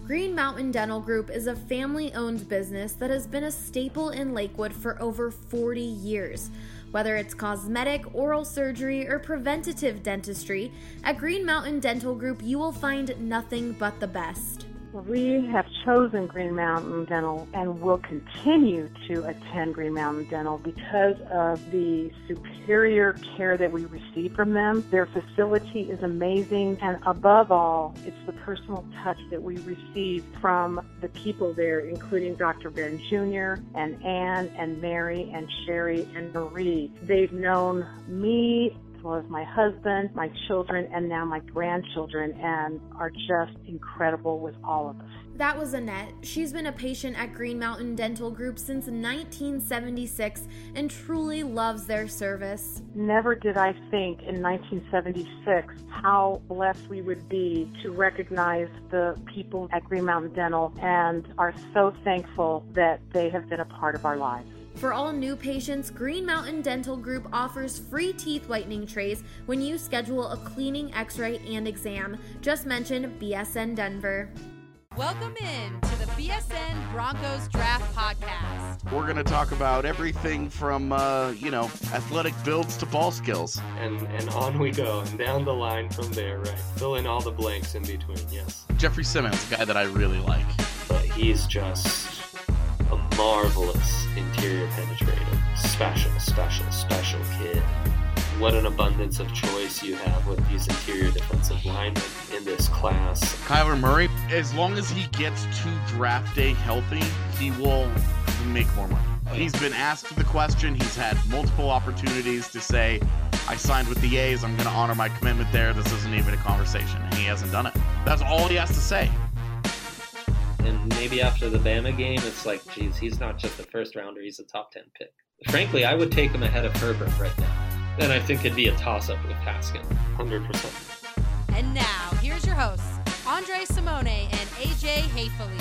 Green Mountain Dental Group is a family-owned business that has been a staple in Lakewood for over 40 years. Whether it's cosmetic, oral surgery, or preventative dentistry, at Green Mountain Dental Group you will find nothing but the best. We have chosen Green Mountain Dental and will continue to attend Green Mountain Dental because of the superior care that we receive from them. Their facility is amazing, and above all, it's the personal touch that we receive from the people there, including Dr. Ben Jr. and Ann and Mary and Sherry and Marie. They've known me as well as my husband, my children, and now my grandchildren, and are just incredible with all of us. That was Annette. She's been a patient at Green Mountain Dental Group since 1976 and truly loves their service. Never did I think in 1976 how blessed we would be to recognize the people at Green Mountain Dental, and are so thankful that they have been a part of our lives. For all new patients, Green Mountain Dental Group offers free teeth whitening trays when you schedule a cleaning, x-ray, and exam. Just mention BSN Denver. Welcome in to the BSN Broncos Draft Podcast. We're going to talk about everything from, athletic builds to ball skills. And on we go, and down the line from there, right? Fill in all the blanks in between, yes. Jeffrey Simmons, a guy that I really like. But he's just a marvelous interior penetrator. Special kid. What an abundance of choice you have with these interior defensive linemen in this class. Kyler Murray, as long as he gets to draft day healthy, he will make more money. He's been asked the question. He's had multiple opportunities to say, I signed with the A's. I'm going to honor my commitment there. This isn't even a conversation. And he hasn't done it. That's all he has to say. And maybe after the Bama game, it's like, geez, he's not just a first rounder, he's a top 10 pick. Frankly, I would take him ahead of Herbert right now. And I think it'd be a toss-up with Haskins. 100%. And now, here's your hosts, Andre Simone and AJ Hayfley.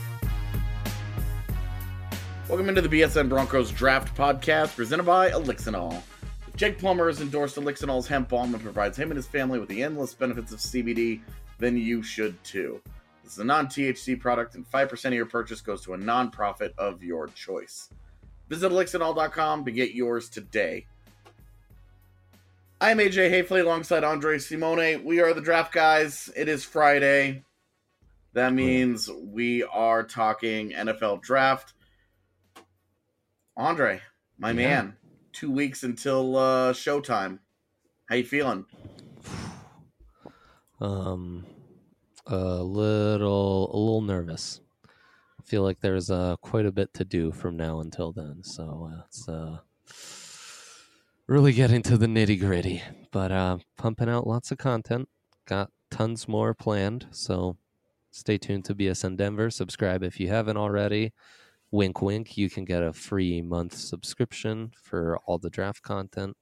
Welcome into the BSN Broncos Draft Podcast, presented by Elixinol. If Jake Plummer has endorsed Elixinol's hemp balm and provides him and his family with the endless benefits of CBD, then you should too. This is a non-THC product, and 5% of your purchase goes to a non-profit of your choice. Visit Elixinol.com to get yours today. I'm AJ Hayfley alongside Andre Simone. We are the Draft Guys. It is Friday. That means we are talking NFL Draft. Andre, my man, 2 weeks until showtime. How you feeling? A little nervous. I feel like there's quite a bit to do from now until then, so it's really getting to the nitty gritty. But pumping out lots of content. Got tons more planned, so stay tuned to BSN Denver. Subscribe if you haven't already. Wink, wink. You can get a free month subscription for all the draft content.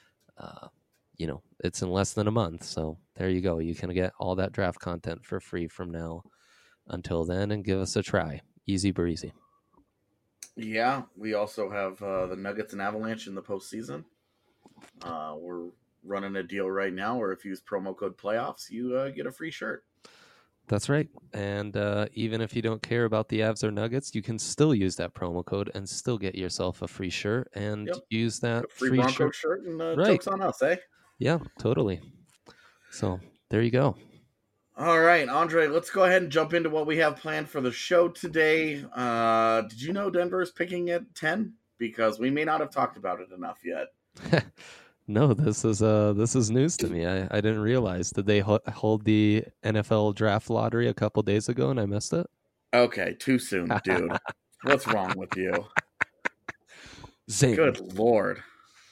It's in less than a month, so there you go. You can get all that draft content for free from now until then, and give us a try. Easy breezy. Yeah, we also have the Nuggets and Avalanche in the postseason. We're running a deal right now where if you use promo code PLAYOFFS, you get a free shirt. That's right. And even if you don't care about the Avs or Nuggets, you can still use that promo code and still get yourself a free shirt and use that a free Bronco shirt and right. Joke's on us, eh? Yeah, totally. So there you go. All right, Andre, let's go ahead and jump into what we have planned for the show today. Did you know Denver is picking at 10? Because we may not have talked about it enough yet. No, this is news to me. I didn't realize. Did they hold the NFL draft lottery a couple days ago and I missed it? Okay, too soon, dude. What's wrong with you? Zing. Good Lord.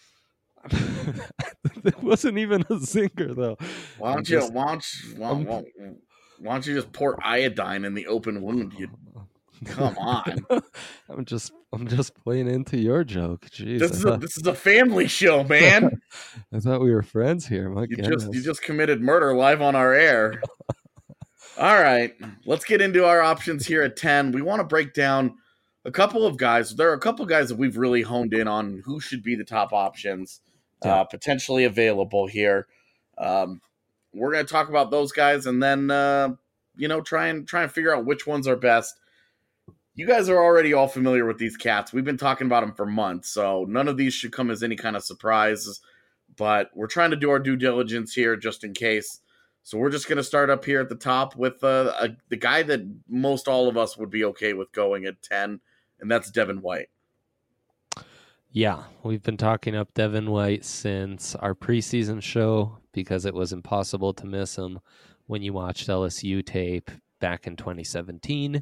It wasn't even a zinger, though. Why don't you just pour iodine in the open wound? You come on. I'm just playing into your joke. Jeez, this is a family show, man. I thought we were friends here. You just committed murder live on our air. All right, let's get into our options here at 10. We want to break down a couple of guys. There are a couple of guys that we've really honed in on who should be the top options. Potentially available here. We're going to talk about those guys, and then try and figure out which ones are best. You guys are already all familiar with these cats. We've been talking about them for months, so none of these should come as any kind of surprise. But we're trying to do our due diligence here just in case. So we're just going to start up here at the top with the guy that most all of us would be okay with going at 10, and that's Devin White. Yeah, we've been talking up Devin White since our preseason show because it was impossible to miss him when you watched LSU tape back in 2017.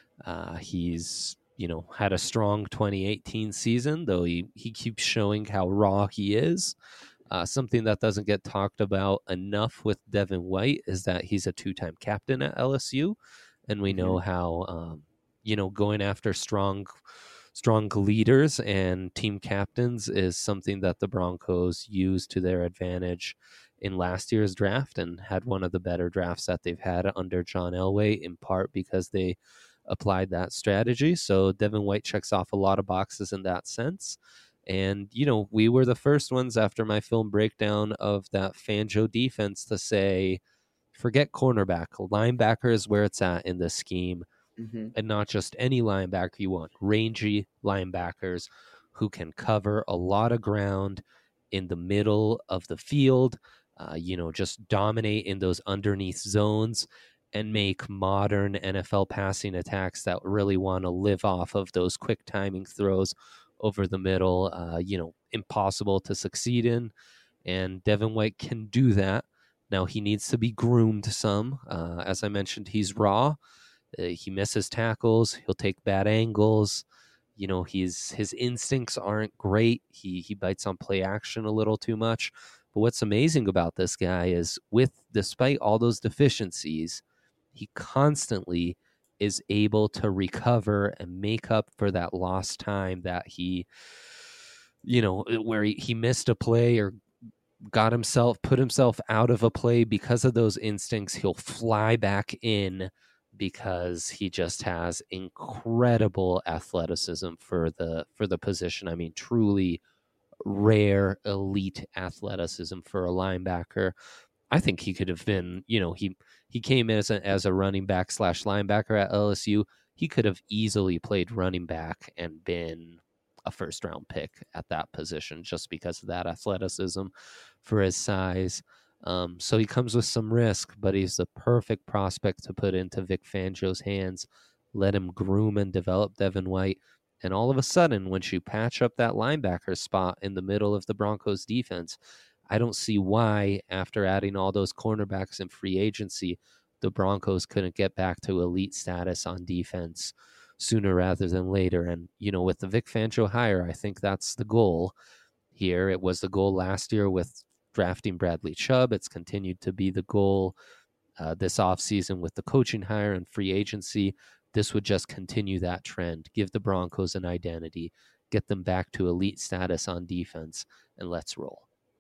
He's, had a strong 2018 season, though he keeps showing how raw he is. Something that doesn't get talked about enough with Devin White is that he's a 2-time captain at LSU, and we know how, going after strong leaders and team captains is something that the Broncos used to their advantage in last year's draft and had one of the better drafts that they've had under John Elway, in part because they applied that strategy. So Devin White checks off a lot of boxes in that sense. And, we were the first ones after my film breakdown of that Fangio defense to say, forget cornerback. Linebacker is where it's at in this scheme. And not just any linebacker you want. Rangy linebackers who can cover a lot of ground in the middle of the field, just dominate in those underneath zones and make modern NFL passing attacks that really want to live off of those quick timing throws over the middle, impossible to succeed in. And Devin White can do that. Now, he needs to be groomed some. As I mentioned, he's raw. He misses tackles. He'll take bad angles. His instincts aren't great. He bites on play action a little too much. But what's amazing about this guy is despite all those deficiencies, he constantly is able to recover and make up for that lost time that he missed a play or put himself out of a play because of those instincts. He'll fly back in because he just has incredible athleticism for the position. I mean, truly rare elite athleticism for a linebacker. I think he could have been, he came as a running back / linebacker at LSU. He could have easily played running back and been a first round pick at that position just because of that athleticism for his size. So he comes with some risk, but he's the perfect prospect to put into Vic Fangio's hands. Let him groom and develop Devin White. And all of a sudden, once you patch up that linebacker spot in the middle of the Broncos defense, I don't see why, after adding all those cornerbacks in free agency, the Broncos couldn't get back to elite status on defense sooner rather than later. And, with the Vic Fangio hire, I think that's the goal here. It was the goal last year with drafting Bradley Chubb. It's continued to be the goal this offseason with the coaching hire and free agency. This would just continue that trend, give the Broncos an identity, get them back to elite status on defense, and let's roll.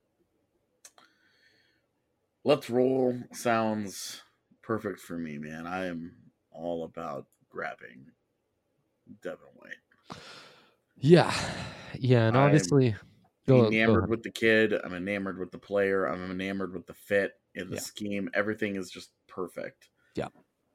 Let's roll sounds perfect for me, man. I am all about grabbing Devin White. Yeah, and obviously, I'm enamored with the kid. I'm enamored with the player. I'm enamored with the fit in the scheme. Everything is just perfect. Yeah.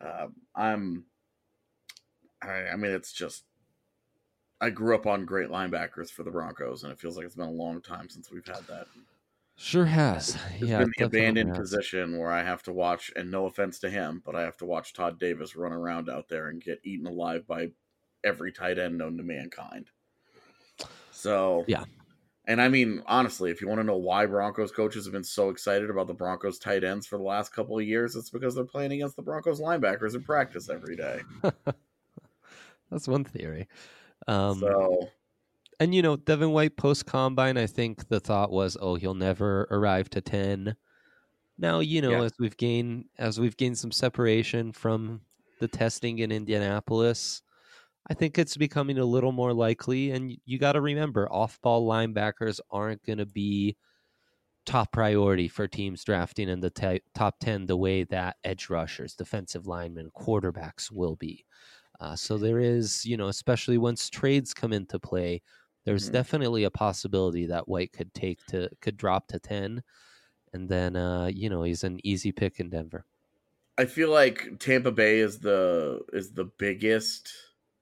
It's just, I grew up on great linebackers for the Broncos, and it feels like it's been a long time since we've had that. Sure has. It's been the abandoned position where I have to watch, and no offense to him, but I have to watch Todd Davis run around out there and get eaten alive by every tight end known to mankind. So, yeah. And I mean, honestly, if you want to know why Broncos coaches have been so excited about the Broncos tight ends for the last couple of years, it's because they're playing against the Broncos linebackers in practice every day. That's one theory. And, Devin White post-combine, I think the thought was, he'll never arrive to 10. Now, as we've gained some separation from the testing in Indianapolis, I think it's becoming a little more likely. And you got to remember, off-ball linebackers aren't going to be top priority for teams drafting in the top 10 the way that edge rushers, defensive linemen, quarterbacks will be. So there is, especially once trades come into play, there's definitely a possibility that White could drop to 10, and then he's an easy pick in Denver. I feel like Tampa Bay is the biggest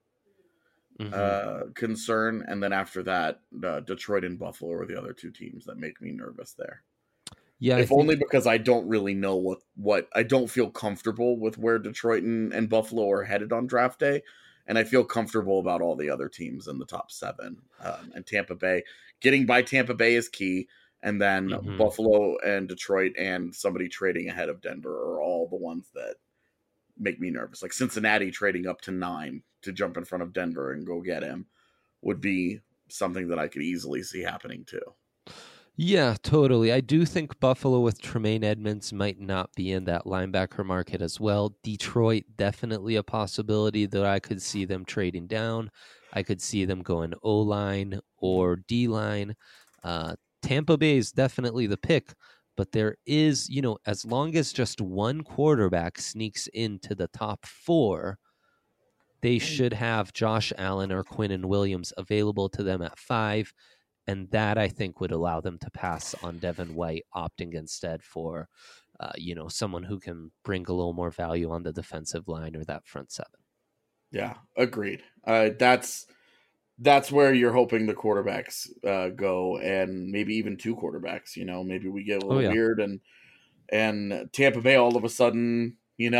concern, and then after that, Detroit and Buffalo are the other two teams that make me nervous there. Yeah, if only because I don't really know what I don't feel comfortable with where Detroit and Buffalo are headed on draft day, and I feel comfortable about all the other teams in the top 7. And Tampa Bay, getting by Tampa Bay is key, and then Buffalo and Detroit and somebody trading ahead of Denver are all the ones that make me nervous. Like Cincinnati trading up to 9 to jump in front of Denver and go get him would be something that I could easily see happening too. Yeah, totally. I do think Buffalo with Tremaine Edmonds might not be in that linebacker market as well. Detroit, definitely a possibility that I could see them trading down. I could see them going O-line or D-line. Tampa Bay is definitely the pick, but there is, as long as just one quarterback sneaks into the top 4, they should have Josh Allen or Quinnen Williams available to them at 5. And that, I think, would allow them to pass on Devin White, opting instead for, someone who can bring a little more value on the defensive line or that front 7. Yeah, agreed. That's where you're hoping the quarterbacks go, and maybe even 2 quarterbacks. Maybe we get a little weird, and Tampa Bay all of a sudden,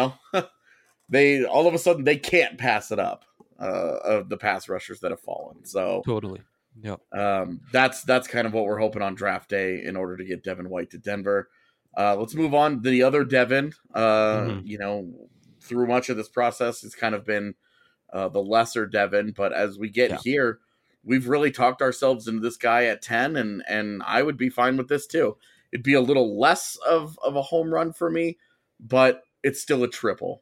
they can't pass it up of the pass rushers that have fallen. So totally. Yep. That's kind of what we're hoping on draft day in order to get Devin White to Denver. Let's move on. The other Devin, through much of this process, it's kind of been the lesser Devin, but as we get here, we've really talked ourselves into this guy at 10, and I would be fine with this too. It'd be a little less of a home run for me, but it's still a triple.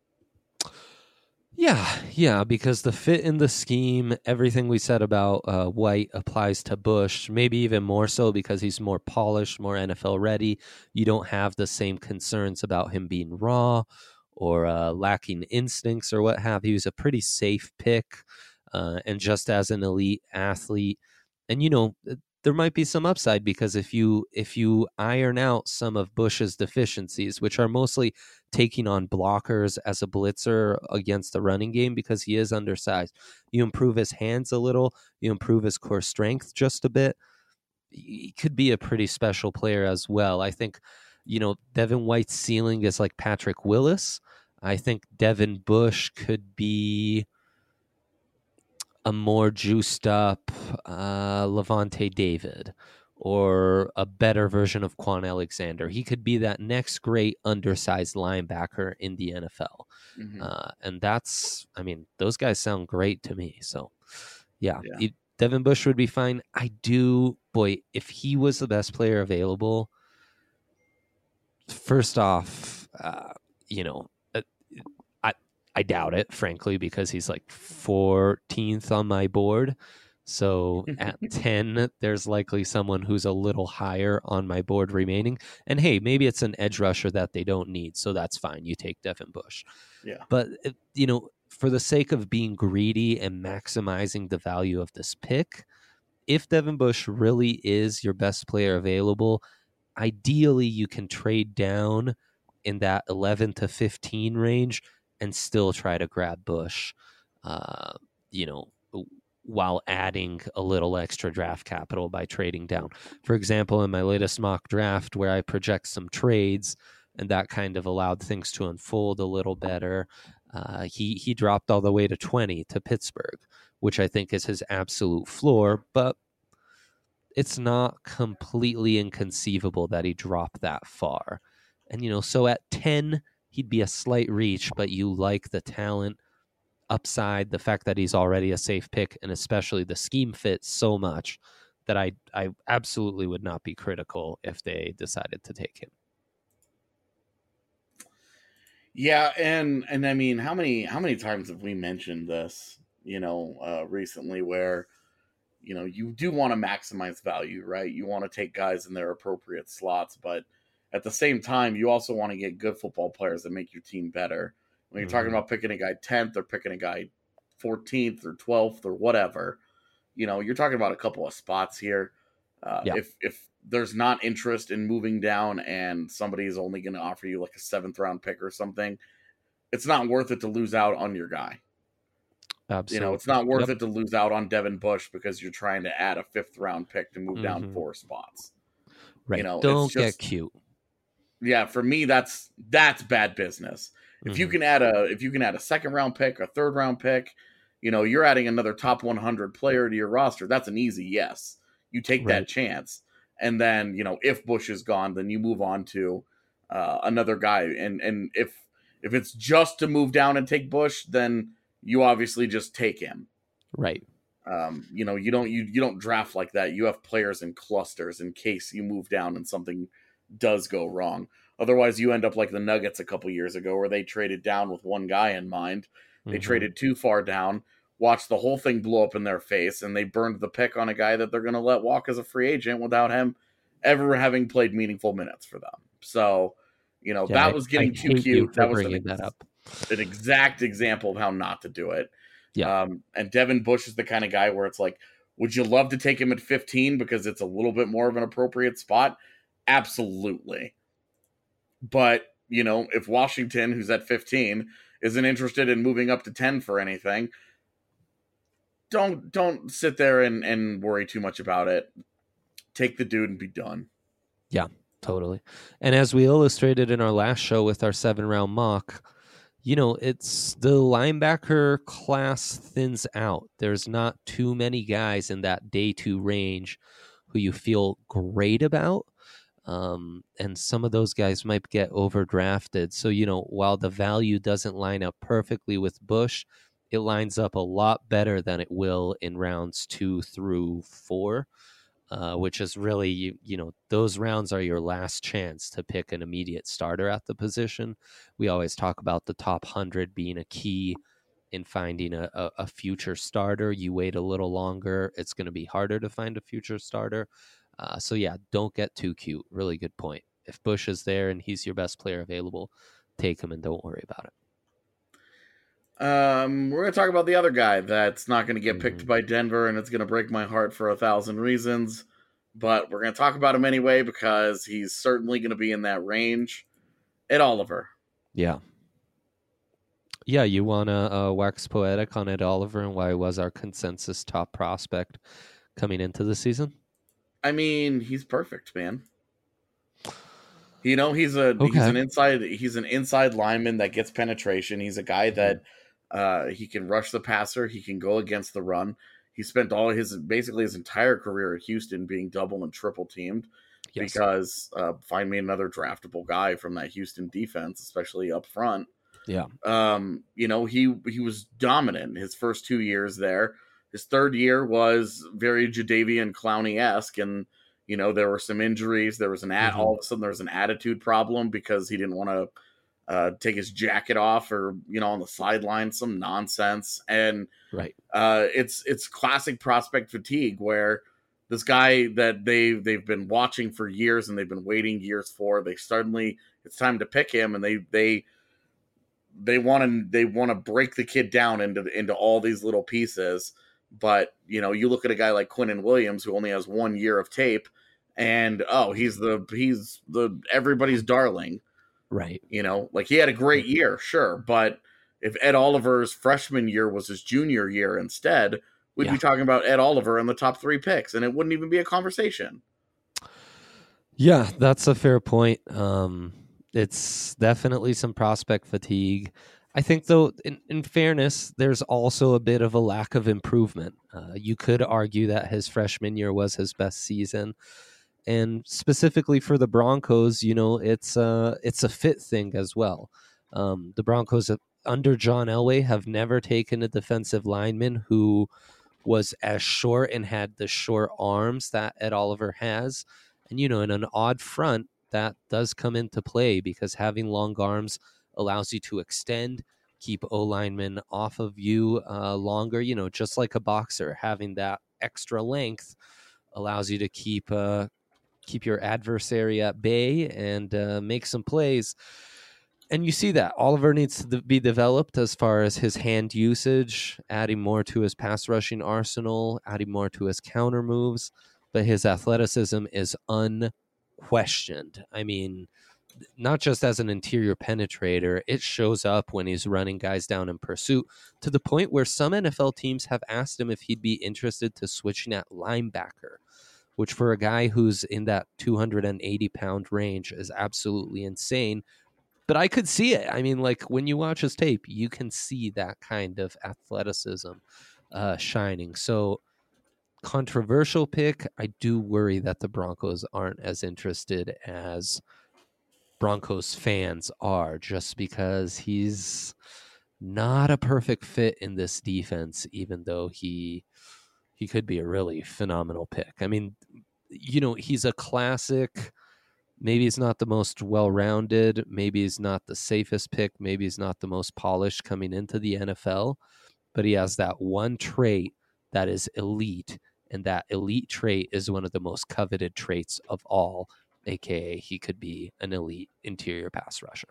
Yeah, because the fit in the scheme, everything we said about White applies to Bush, maybe even more so because he's more polished, more NFL ready. You don't have the same concerns about him being raw or lacking instincts or what have you. He was a pretty safe pick, and just as an elite athlete. And, there might be some upside because if you iron out some of Bush's deficiencies, which are mostly taking on blockers as a blitzer against the running game because he is undersized, you improve his hands a little, you improve his core strength just a bit, he could be a pretty special player as well. I think, Devin White's ceiling is like Patrick Willis. I think Devin Bush could be a more juiced up Levante David or a better version of Quan Alexander. He could be that next great undersized linebacker in the NFL. And those guys sound great to me. So, Devin Bush would be fine. If he was the best player available, first off, I doubt it, frankly, because he's like 14th on my board. So at 10, there's likely someone who's a little higher on my board remaining. And hey, maybe it's an edge rusher that they don't need. So that's fine. You take Devin Bush. Yeah. But, for the sake of being greedy and maximizing the value of this pick, if Devin Bush really is your best player available, ideally you can trade down in that 11 to 15 range and still try to grab Bush, while adding a little extra draft capital by trading down. For example, in my latest mock draft where I project some trades and that kind of allowed things to unfold a little better, he dropped all the way to 20 to Pittsburgh, which I think is his absolute floor, but it's not completely inconceivable that he dropped that far. And, so at 10, he'd be a slight reach, but you like the talent, upside, the fact that he's already a safe pick, and especially the scheme fits so much that I absolutely would not be critical if they decided to take him. Yeah, and I mean, how many times have we mentioned this, recently where, you do want to maximize value, right? You want to take guys in their appropriate slots, but at the same time, you also want to get good football players that make your team better. When you're talking about picking a guy 10th or picking a guy 14th or 12th or whatever, you're talking about a couple of spots here. If there's not interest in moving down and somebody is only going to offer you like a 7th round pick or something, it's not worth it to lose out on your guy. Absolutely. It's not worth it to lose out on Devin Bush because you're trying to add a 5th round pick to move down 4 spots. Right. Don't get cute. Yeah, for me, that's bad business. If you can add a 2nd round pick, a 3rd round pick, you're adding another top 100 player to your roster. That's an easy yes. You take that chance, and then if Bush is gone, then you move on to another guy. And if it's just to move down and take Bush, then you obviously just take him. Right. You don't draft like that. You have players in clusters in case you move down and something does go wrong. Otherwise, you end up like the Nuggets a couple years ago where they traded down with one guy in mind. They traded too far down, watched the whole thing blow up in their face, and they burned the pick on a guy that they're going to let walk as a free agent without him ever having played meaningful minutes for them. So, that was getting too cute. That was an exact example of how not to do it. Yeah. And Devin Bush is the kind of guy where it's like, would you love to take him at 15 because it's a little bit more of an appropriate spot? Absolutely. But, if Washington, who's at 15, isn't interested in moving up to 10 for anything, don't sit there and worry too much about it. Take the dude and be done. Yeah, totally. And as we illustrated in our last show with our 7-round mock, it's the linebacker class thins out. There's not too many guys in that day 2 range who you feel great about. And some of those guys might get overdrafted. So, while the value doesn't line up perfectly with Bush, it lines up a lot better than it will in rounds 2 through 4, which is really, those rounds are your last chance to pick an immediate starter at the position. We always talk about the top 100 being a key in finding a future starter. You wait a little longer, it's going to be harder to find a future starter. So yeah, don't get too cute. Really good point. If Bush is there and he's your best player available, take him and don't worry about it. We're going to talk about the other guy that's not going to get picked by Denver, and it's going to break my heart for 1,000 reasons. But we're going to talk about him anyway because he's certainly going to be in that range. Ed Oliver. Yeah. Yeah, you want to wax poetic on Ed Oliver and why he was our consensus top prospect coming into the season? I mean, he's perfect, man. He's an inside lineman that gets penetration. He's a guy that he can rush the passer. He can go against the run. He spent basically his entire career at Houston being double and triple teamed because find me another draftable guy from that Houston defense, especially up front. Yeah. He was dominant his first 2 years there. His 3rd year was very Jadeveon Clowney-esque, and there were some injuries. There was all of a sudden there was an attitude problem because he didn't want to take his jacket off or on the sideline, some nonsense. And right, it's classic prospect fatigue where this guy that they've been watching for years and they've been waiting years for, it's time to pick him, and they want to break the kid down into all these little pieces. But, you look at a guy like Quinnen Williams who only has 1 year of tape and, he's the everybody's darling. Right. He had a great year, sure. But if Ed Oliver's freshman year was his junior year instead, we'd be talking about Ed Oliver in the top 3 picks, and it wouldn't even be a conversation. Yeah, that's a fair point. It's definitely some prospect fatigue. I think, though, in fairness, there's also a bit of a lack of improvement. You could argue that his freshman year was his best season. And specifically for the Broncos, it's a fit thing as well. The Broncos under John Elway have never taken a defensive lineman who was as short and had the short arms that Ed Oliver has. And, in an odd front, that does come into play because having long arms allows you to extend, keep O-linemen off of you longer. Just like a boxer, having that extra length allows you to keep your adversary at bay and make some plays. And you see that Oliver needs to be developed as far as his hand usage, adding more to his pass rushing arsenal, adding more to his counter moves. but his athleticism is unquestioned. I mean, not just as an interior penetrator, it shows up when he's running guys down in pursuit, to the point where some NFL teams have asked him if he'd be interested to switching at linebacker, which for a guy who's in that 280-pound range is absolutely insane. But I could see it. I mean, like, when you watch his tape, you can see that kind of athleticism shining. So, controversial pick. I do worry that the Broncos aren't as interested as Broncos fans are, just because he's not a perfect fit in this defense, even though he could be a really phenomenal pick. I mean, he's a classic. Maybe he's not the most well-rounded. Maybe he's not the safest pick. Maybe he's not the most polished coming into the NFL, but he has that one trait that is elite, and that elite trait is one of the most coveted traits of all, aka he could be an elite interior pass rusher.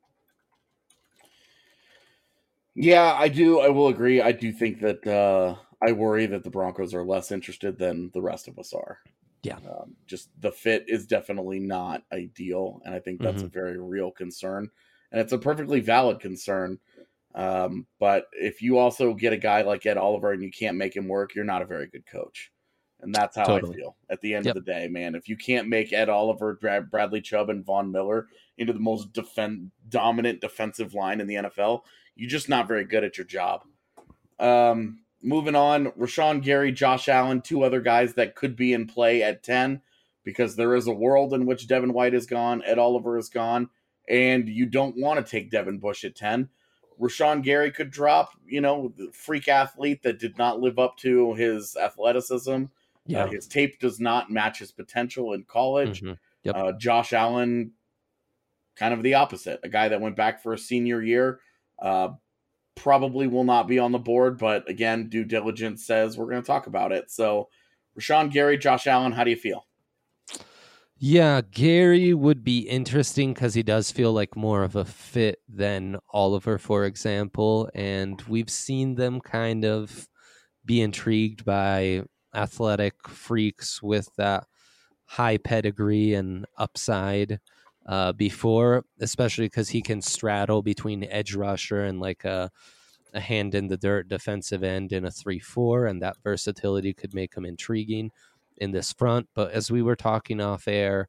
Yeah, I do. I will agree. I do think that I worry that the Broncos are less interested than the rest of us are. Yeah. Just the fit is definitely not ideal, and I think that's a very real concern, and it's a perfectly valid concern. But if you also get a guy like Ed Oliver and you can't make him work, you're not a very good coach. And that's how I feel at the end of the day, man. If you can't make Ed Oliver, Bradley Chubb, and Von Miller into the most dominant defensive line in the NFL, you're just not very good at your job. Moving on, Rashawn Gary, Josh Allen, two other guys that could be in play at 10, because there is a world in which Devin White is gone, Ed Oliver is gone, and you don't want to take Devin Bush at 10. Rashawn Gary could drop, the freak athlete that did not live up to his athleticism. Yeah. His tape does not match his potential in college. Yep. Josh Allen, kind of the opposite. A guy that went back for a senior year, probably will not be on the board, but again, due diligence says we're going to talk about it. So, Rashawn Gary, Josh Allen, how do you feel? Yeah, Gary would be interesting because he does feel like more of a fit than Oliver, for example. And we've seen them kind of be intrigued by athletic freaks with that high pedigree and upside before, especially because he can straddle between edge rusher and like a hand in the dirt defensive end in a 3-4, and that versatility could make him intriguing in this front. But as we were talking off air,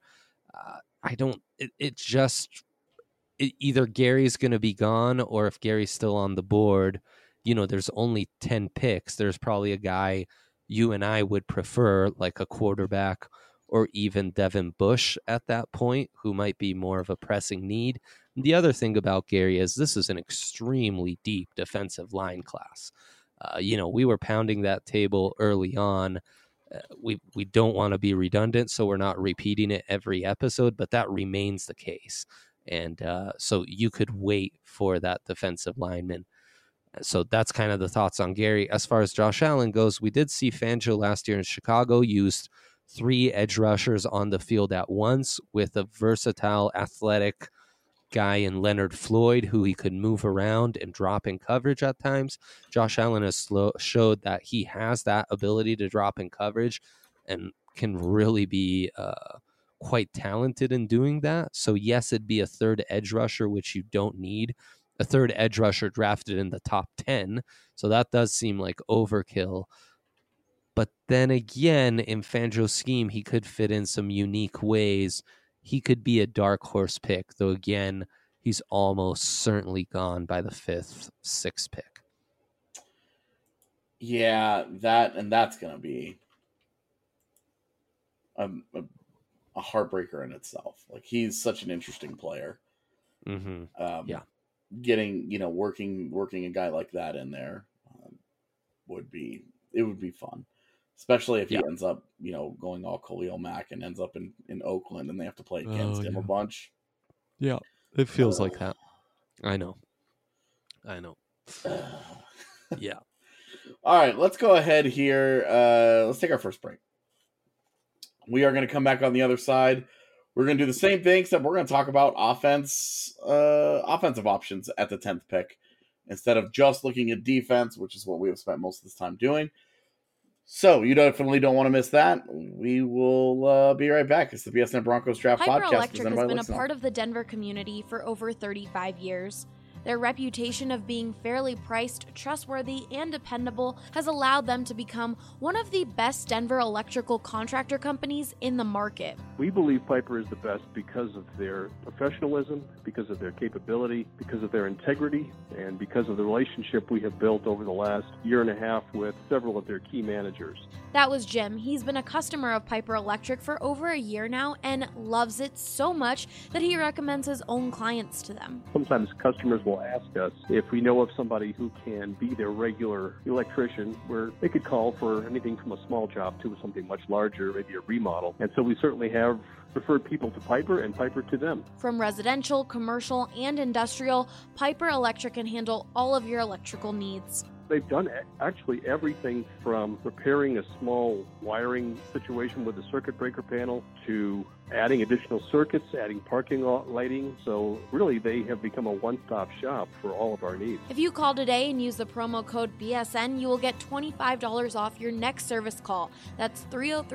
either Gary's going to be gone, or if Gary's still on the board, there's only 10 picks. There's probably a guy you and I would prefer, like a quarterback or even Devin Bush at that point, who might be more of a pressing need. And the other thing about Gary is this is an extremely deep defensive line class. We were pounding that table early on. We don't want to be redundant, so we're not repeating it every episode, but that remains the case. And so you could wait for that defensive lineman. So that's kind of the thoughts on Gary. As far as Josh Allen goes, we did see Fangio last year in Chicago used 3 edge rushers on the field at once with a versatile, athletic guy in Leonard Floyd who he could move around and drop in coverage at times. Josh Allen has showed that he has that ability to drop in coverage and can really be quite talented in doing that. So yes, it'd be a third edge rusher, which you don't need. A third edge rusher drafted in the top 10. So that does seem like overkill. But then again, in Fangio's scheme, he could fit in some unique ways. He could be a dark horse pick, though again, he's almost certainly gone by the 5th, 6th pick. Yeah, that's going to be a heartbreaker in itself. Like, he's such an interesting player. Yeah. Getting, working a guy like that in there would be fun. Especially if he ends up, going all Khalil Mack and ends up in Oakland and they have to play against him a bunch. Yeah, it feels like that. I know. Yeah. All right, let's go ahead here. Let's take our first break. We are going to come back on the other side. We're going to do the same thing, except we're going to talk about offensive options at the 10th pick instead of just looking at defense, which is what we have spent most of this time doing. So you definitely don't want to miss that. We will be right back. It's the BSN Broncos Draft Piper Podcast. Electric presented has by been a Lixnall. part of the Denver community for over 35 years. Their reputation of being fairly priced, trustworthy, and dependable has allowed them to become one of the best Denver electrical contractor companies in the market. We believe Piper is the best because of their professionalism, because of their capability, because of their integrity, and because of the relationship we have built over the last year and a half with several of their key managers. That was Jim. He's been a customer of Piper Electric for over a year now and loves it so much that he recommends his own clients to them. Sometimes customers will ask us if we know of somebody who can be their regular electrician, where they could call for anything from a small job to something much larger, maybe a remodel. And so we certainly have referred people to Piper and Piper to them. From residential, commercial, and industrial, Piper Electric can handle all of your electrical needs. They've done actually everything from repairing a small wiring situation with a circuit breaker panel to adding additional circuits, adding parking lot lighting. So really, they have become a one-stop shop for all of our needs. If you call today and use the promo code BSN, you will get $25 off your next service call. That's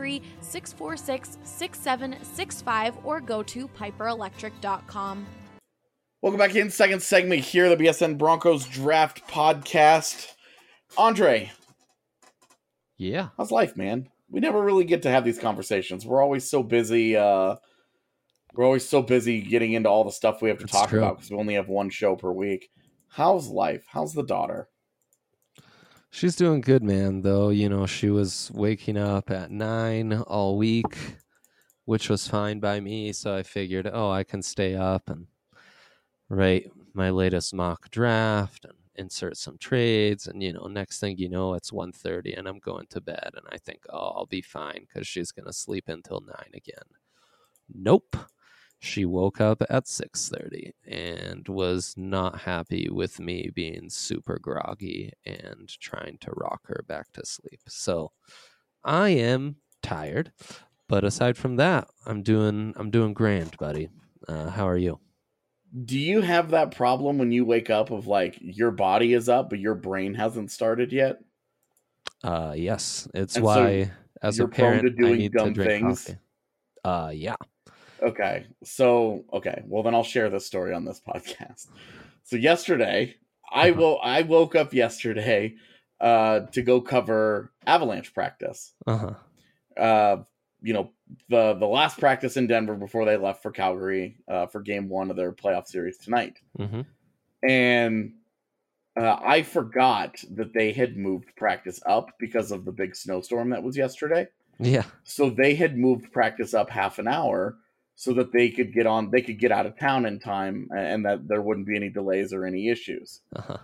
303-646-6765 or go to piperelectric.com. Welcome back in. Second segment here, the BSN Broncos Draft Podcast. Andre, Yeah. how's life, man? We never really get to have these conversations. We're always so busy. We're always so busy getting into all the stuff we have to That's talk true. about because we only have one show per week. How's life? How's the daughter? She's doing good, man, though. You know, she was waking up at 9 all week, which was fine by me. So I figured, I can stay up and write my latest mock draft and insert some trades. And, next thing you know, it's 1:30 and I'm going to bed. And I think, I'll be fine because she's going to sleep until 9 again. Nope. She woke up at 6:30 and was not happy with me being super groggy and trying to rock her back to sleep. So I am tired, but aside from that, I'm doing grand, buddy. How are you? Do you have that problem when you wake up of like your body is up, but your brain hasn't started yet? Yes. It's And why, so as you're a prone to parent, I doing need dumb to drink things? coffee. Yeah. Okay. Well, then I'll share this story on this podcast. So yesterday, I woke up yesterday to go cover Avalanche practice. Uh-huh. The last practice in Denver before they left for Calgary for game 1 of their playoff series tonight. Mm-hmm. And I forgot that they had moved practice up because of the big snowstorm that was yesterday. Yeah. So they had moved practice up half an hour so that they could get out of town in time and that there wouldn't be any delays or any issues. Uh-huh.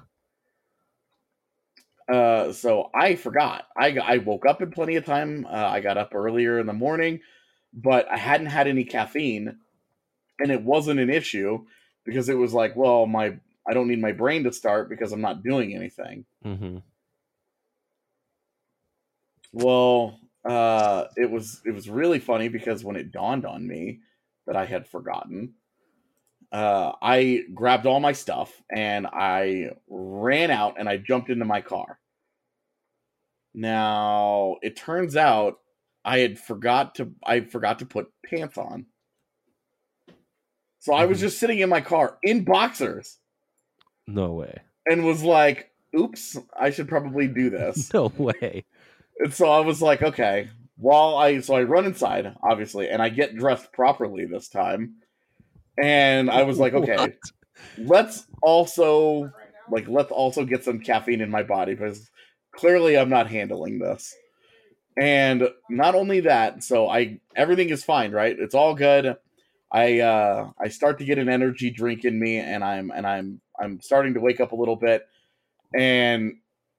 So I forgot. I woke up in plenty of time. I got up earlier in the morning, but I hadn't had any caffeine, and it wasn't an issue because it was like, well, I don't need my brain to start because I'm not doing anything. Mm-hmm. Well, it was really funny because when it dawned on me that I had forgotten, I grabbed all my stuff and I ran out and I jumped into my car. Now, it turns out I forgot to put pants on. So I was just sitting in my car in boxers No way. and was like, oops, I should probably do this. No way. And so I was like, okay. So I run inside, obviously, and I get dressed properly this time. And I was like, okay, What? let's also get some caffeine in my body because clearly I'm not handling this. And not only that, so everything is fine, right? It's all good. I start to get an energy drink in me, and I'm starting to wake up a little bit, and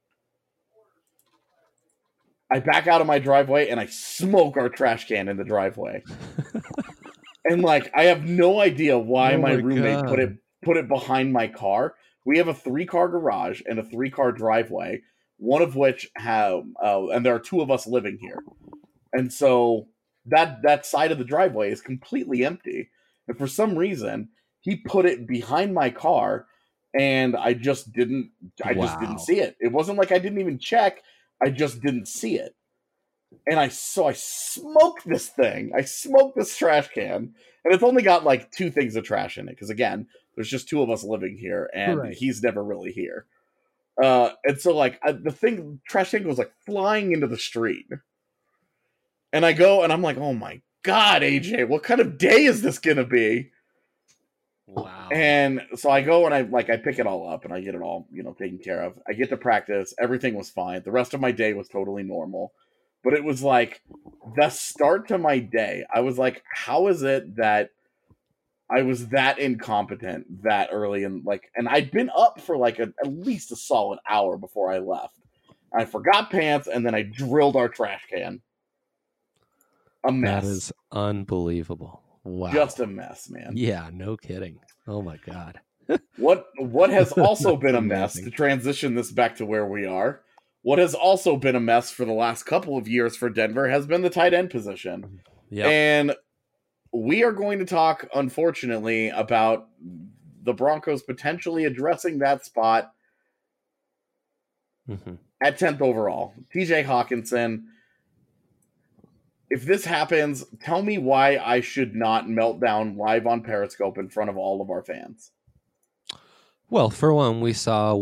I back out of my driveway and I smoke our trash can in the driveway. And like, I have no idea why Oh my my roommate God. put it behind my car. We have a 3-car garage and a 3-car driveway, one of which and there are 2 of us living here. And so that side of the driveway is completely empty. And for some reason, he put it behind my car and I just didn't Wow. see it. It wasn't like I didn't even check. I just didn't see it. And I smoked this thing. I smoked this trash can, and it's only got like 2 things of trash in it because again, there's just 2 of us living here, and Right. he's never really here. And so like the trash can goes like flying into the street, and I go and I'm like, oh my god, AJ, what kind of day is this gonna be? Wow. And so I go and I pick it all up and I get it all taken care of. I get to practice. Everything was fine. The rest of my day was totally normal. But it was like the start to my day. I was like, how is it that I was that incompetent that early? And I'd been up for like at least a solid hour before I left. I forgot pants and then I drilled our trash can. A mess. That is unbelievable. Wow. Just a mess, man. Yeah, no kidding. Oh my God. What has also been a mess, Amazing. to transition this back to where we are, what has also been a mess for the last couple of years for Denver has been the tight end position. Yeah. And we are going to talk, unfortunately, about the Broncos potentially addressing that spot at 10th overall. TJ Hawkinson. If this happens, tell me why I should not melt down live on Periscope in front of all of our fans. Well, for one, we saw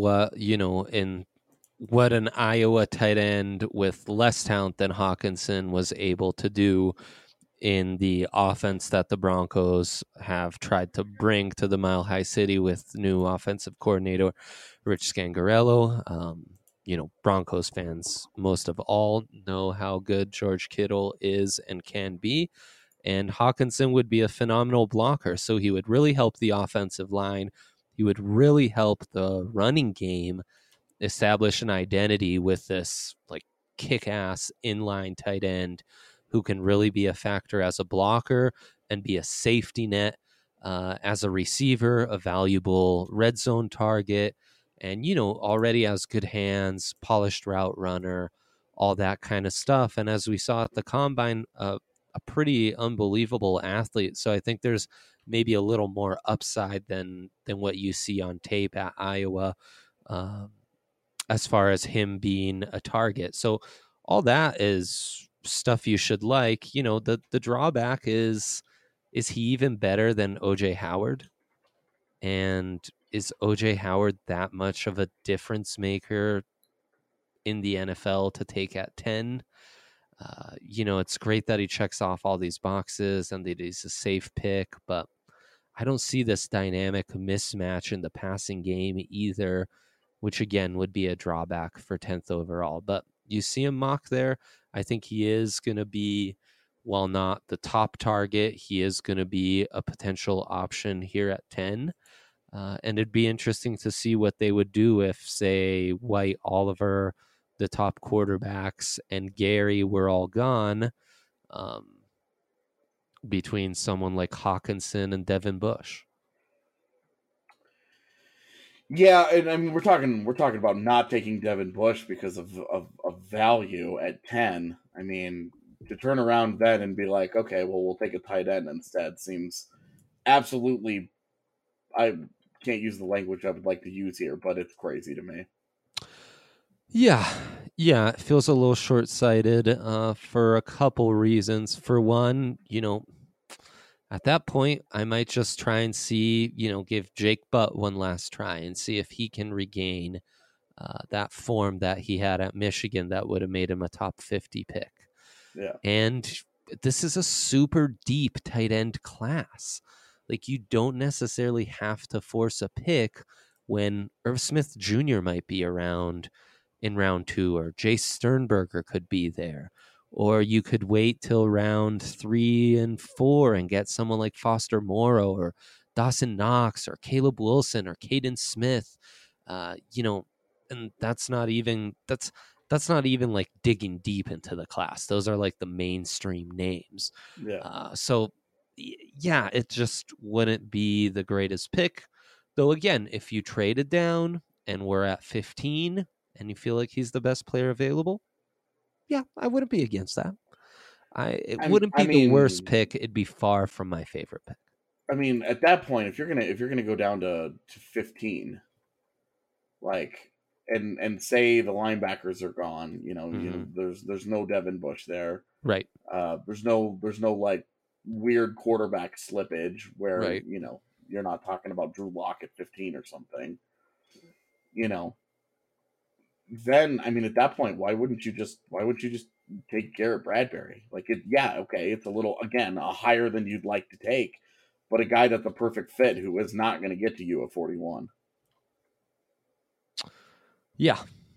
what an Iowa tight end with less talent than Hawkinson was able to do in the offense that the Broncos have tried to bring to the Mile High City with new offensive coordinator Rich Scangarello. Broncos fans, most of all, know how good George Kittle is and can be. And Hawkinson would be a phenomenal blocker. So he would really help the offensive line. He would really help the running game establish an identity with this like kick-ass inline tight end who can really be a factor as a blocker and be a safety net as a receiver, a valuable red zone target. And, already has good hands, polished route runner, all that kind of stuff. And as we saw at the Combine, a pretty unbelievable athlete. So I think there's maybe a little more upside than what you see on tape at Iowa as far as him being a target. So all that is stuff you should like. The drawback is he even better than O.J. Howard? And is O.J. Howard that much of a difference maker in the NFL to take at 10? It's great that he checks off all these boxes and that he's a safe pick, but I don't see this dynamic mismatch in the passing game either, which again would be a drawback for 10th overall. But you see him mock there. I think he is going to be, while not the top target, he is going to be a potential option here at 10. And it'd be interesting to see what they would do if, say, White, Oliver, the top quarterbacks, and Gary were all gone between someone like Hawkinson and Devin Bush. Yeah, and I mean we're talking about not taking Devin Bush because of value at 10. I mean, to turn around then and be like, okay, well we'll take a tight end instead seems absolutely, I can't use the language I would like to use here, but it's crazy to me. Yeah, it feels a little short-sighted for a couple reasons. For one, at that point, I might just try and see, give Jake Butt one last try and see if he can regain that form that he had at Michigan that would have made him a top 50 pick. Yeah. And this is a super deep tight end class. Like, you don't necessarily have to force a pick when Irv Smith Jr. might be around in round 2, or Jace Sternberger could be there. Or you could wait till round 3 and 4 and get someone like Foster Moreau or Dawson Knox or Caleb Wilson or Caden Smith. And that's not even like digging deep into the class. Those are like the mainstream names. Yeah. So yeah, it just wouldn't be the greatest pick. Though again, if you traded down and we're at 15 and you feel like he's the best player available, yeah, I wouldn't be against that. It wouldn't be the worst pick. It'd be far from my favorite pick. I mean, at that point, if you're gonna go down to 15, like, and say the linebackers are gone, you know, there's no Devin Bush there. Right. There's no like weird quarterback slippage where, Right. you know, you're not talking about Drew Lock at 15 or something, you know. Then, I mean, at that point, why wouldn't you just take Garrett Bradbury? Like, it's a little, again, a higher than you'd like to take, but a guy that's a perfect fit who is not going to get to you at 41. Yeah.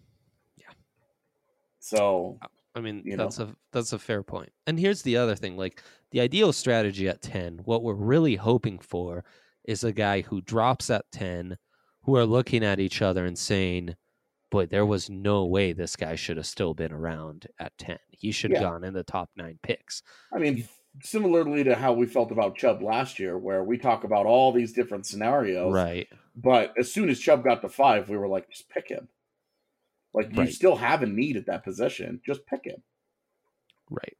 So, I mean, you that's a fair point. And here's the other thing, like the ideal strategy at 10, what we're really hoping for is a guy who drops at 10, who are looking at each other and saying, boy, there was no way this guy should have still been around at 10. He should have gone in the top 9 picks. I mean, similarly to how we felt about Chubb last year, where we talk about all these different scenarios. Right. But as soon as Chubb got to 5, we were like, just pick him. Like, you still have a need at that position. Just pick him. Right.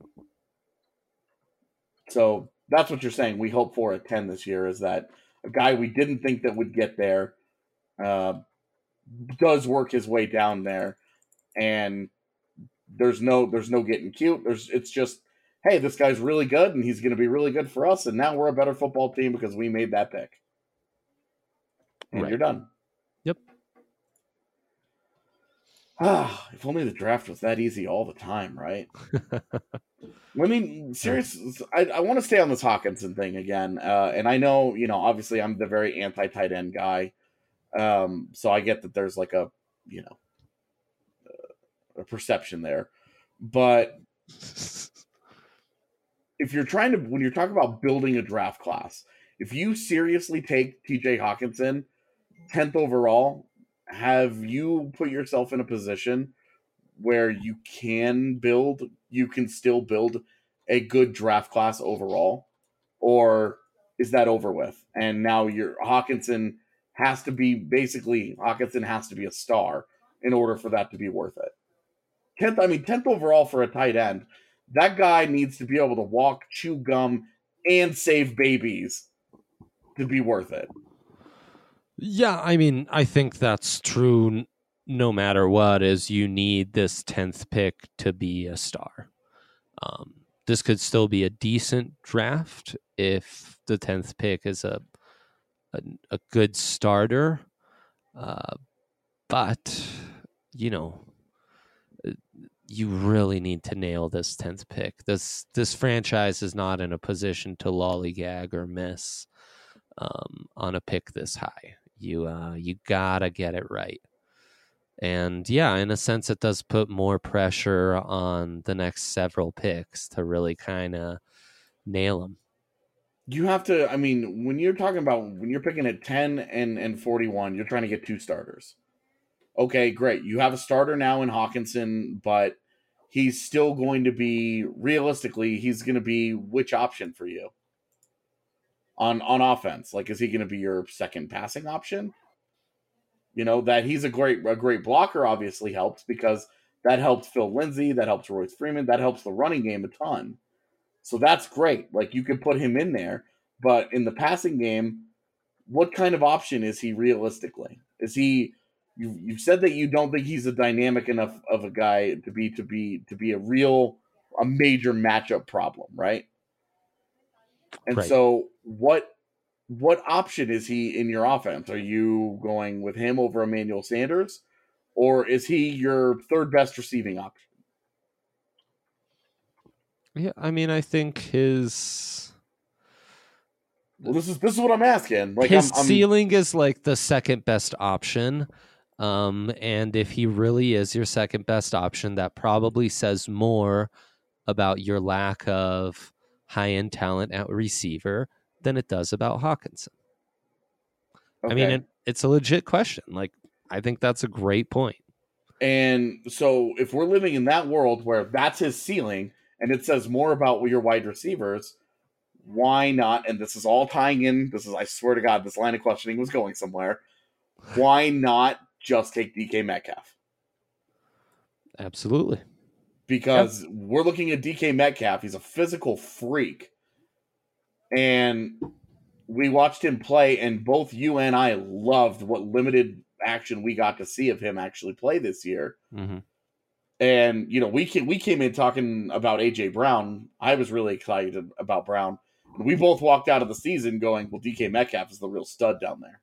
So that's what you're saying. We hope for at 10 this year is that a guy we didn't think that would get there does work his way down there, and there's no getting cute. It's just, hey, this guy's really good, and he's going to be really good for us, and now we're a better football team because we made that pick. And you're done. Yep. If only the draft was that easy all the time, right? I mean, seriously, I want to stay on this Hawkinson thing again. And I know, you know, obviously I'm the very anti-tight end guy. So I get that there's like a perception there. But if you're when you're talking about building a draft class, if you seriously take TJ Hawkinson 10th overall, have you put yourself in a position where you can still build a good draft class overall? Or is that over with? And now Hawkinson has to be a star in order for that to be worth it. 10th overall for a tight end. That guy needs to be able to walk, chew gum, and save babies to be worth it. Yeah, I mean, I think that's true no matter what, is you need this 10th pick to be a star. This could still be a decent draft if the 10th pick is a good starter. But, you know, you really need to nail this 10th pick. This franchise is not in a position to lollygag or miss on a pick this high. You gotta get it right. And yeah, in a sense, it does put more pressure on the next several picks to really kind of nail them. You have to, I mean, when you're picking at 10 and 41, you're trying to get 2 starters. Okay, great. You have a starter now in Hawkinson, but he's still going to be, realistically, he's going to be which option for you on offense? Like, is he going to be your second passing option? You know, that he's a great blocker obviously helps, because that helps Phil Lindsay, that helps Royce Freeman, that helps the running game a ton. So that's great. Like, you could put him in there, but in the passing game, what kind of option is he realistically? Is he? You've said that you don't think he's a dynamic enough of a guy to be a major matchup problem, right? And so what option is he in your offense? Are you going with him over Emmanuel Sanders, or is he your third best receiving option? Yeah, I mean, I think his. Well, this is what I'm asking. Like, his ceiling is like the second best option, and if he really is your second best option, that probably says more about your lack of high-end talent at receiver than it does about Hawkinson. Okay. I mean, it's a legit question. Like, I think that's a great point. And so if we're living in that world where that's his ceiling and it says more about your wide receivers, why not? And this is all tying in. I swear to God, this line of questioning was going somewhere. Why not just take DK Metcalf? Absolutely. Because we're looking at DK Metcalf. He's a physical freak. And we watched him play, and both you and I loved what limited action we got to see of him actually play this year. Mm-hmm. And, we came in talking about A.J. Brown. I was really excited about Brown. And we both walked out of the season going, well, DK Metcalf is the real stud down there.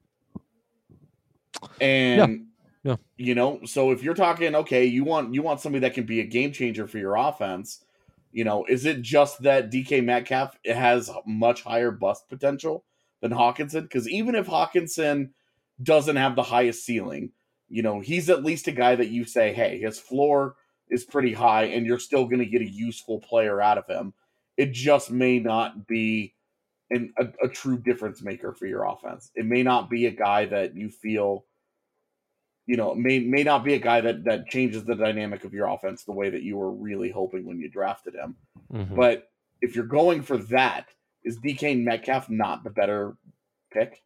And, so if you're talking, okay, you want somebody that can be a game changer for your offense, is it just that DK Metcalf has much higher bust potential than Hawkinson? Because even if Hawkinson doesn't have the highest ceiling, he's at least a guy that you say, hey, his floor is pretty high and you're still going to get a useful player out of him. It just may not be a true difference maker for your offense. It may not be a guy that you feel, may not be a guy that changes the dynamic of your offense the way that you were really hoping when you drafted him. Mm-hmm. But if you're going for that, is DK Metcalf not the better pick?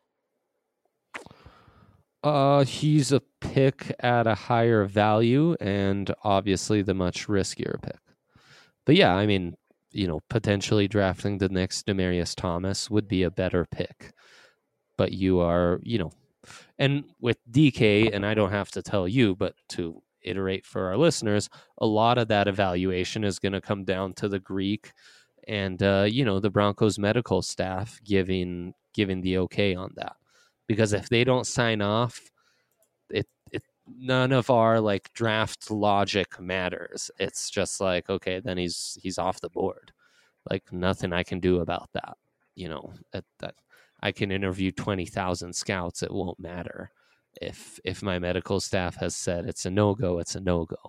He's a pick at a higher value and obviously the much riskier pick. But yeah, I mean, potentially drafting the next Demaryius Thomas would be a better pick. But you are, and with DK, and I don't have to tell you, but to iterate for our listeners, a lot of that evaluation is going to come down to the Greek and, the Broncos medical staff giving the okay on that. Because if they don't sign off, it none of our like draft logic matters. It's just like, okay, then he's off the board. Like nothing I can do about that. That I can interview 20,000 scouts. It won't matter if my medical staff has said it's a no-go. It's a no-go.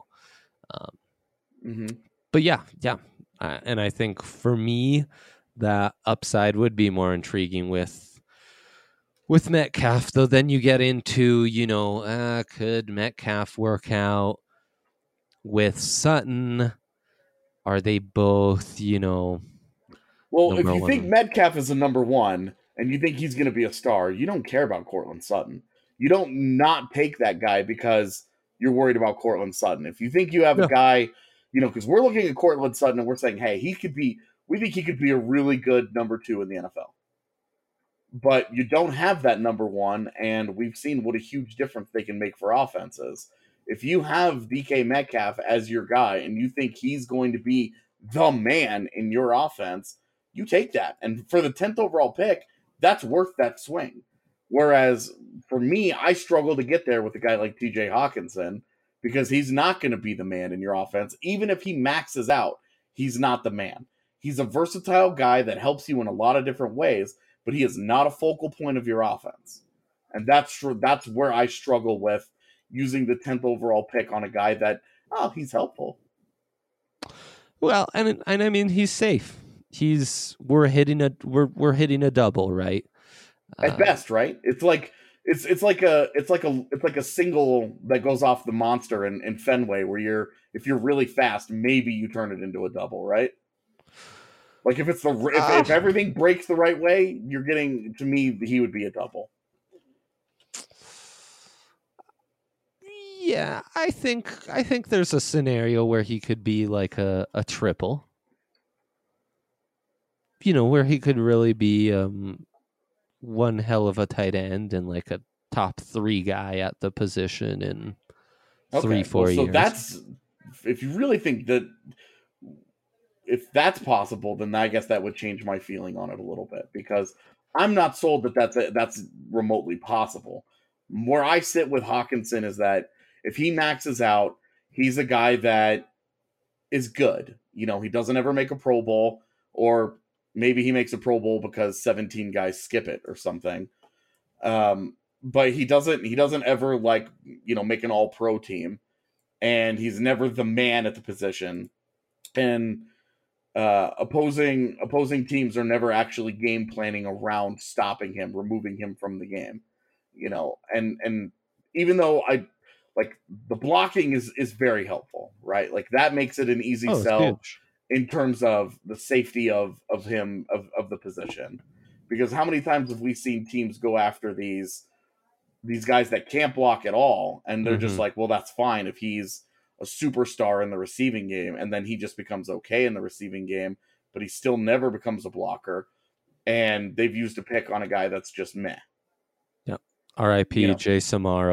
But yeah. And I think for me, that upside would be more intriguing with Metcalf, though. Then you get into, could Metcalf work out with Sutton? Are they both, Well, if you think Metcalf is a number one and you think he's going to be a star, you don't care about Cortland Sutton. You don't not take that guy because you're worried about Cortland Sutton. If you think you have a guy, because we're looking at Cortland Sutton and we're saying, hey, we think he could be a really good number two in the NFL. But you don't have that number one, and we've seen what a huge difference they can make for offenses. If you have DK Metcalf as your guy and you think he's going to be the man in your offense, you take that. And for the 10th overall pick, that's worth that swing. Whereas for me, I struggle to get there with a guy like TJ Hawkinson because he's not going to be the man in your offense. Even if he maxes out, he's not the man. He's a versatile guy that helps you in a lot of different ways, but he is not a focal point of your offense. And that's where I struggle with using the 10th overall pick on a guy that, he's helpful. Well, and I mean, he's safe. We're hitting a double, right? At best, right? It's like a single that goes off the monster in Fenway where if you're really fast, maybe you turn it into a double, right? Like if if everything breaks the right way, you're getting, to me, he would be a double. Yeah, I think there's a scenario where he could be like a triple. Where he could really be one hell of a tight end and like a top 3 guy at the position in 3-4 years. So that's, if you really think that, if that's possible, then I guess that would change my feeling on it a little bit, because I'm not sold that that's remotely possible. Where I sit with Hawkinson is that if he maxes out, he's a guy that is good. He doesn't ever make a Pro Bowl, or maybe he makes a Pro Bowl because 17 guys skip it or something. But he doesn't ever make an all-pro team, and he's never the man at the position. And opposing teams are never actually game planning around stopping him, removing him from the game, and even though the blocking is very helpful, right? Like that makes it an easy sell huge in terms of the safety of him, of the position, because how many times have we seen teams go after these guys that can't block at all, and they're just like, well, that's fine if he's a superstar in the receiving game, and then he just becomes okay in the receiving game, but he still never becomes a blocker, and they've used a pick on a guy that's just meh. Yep. R.I.P. Jay Samaro.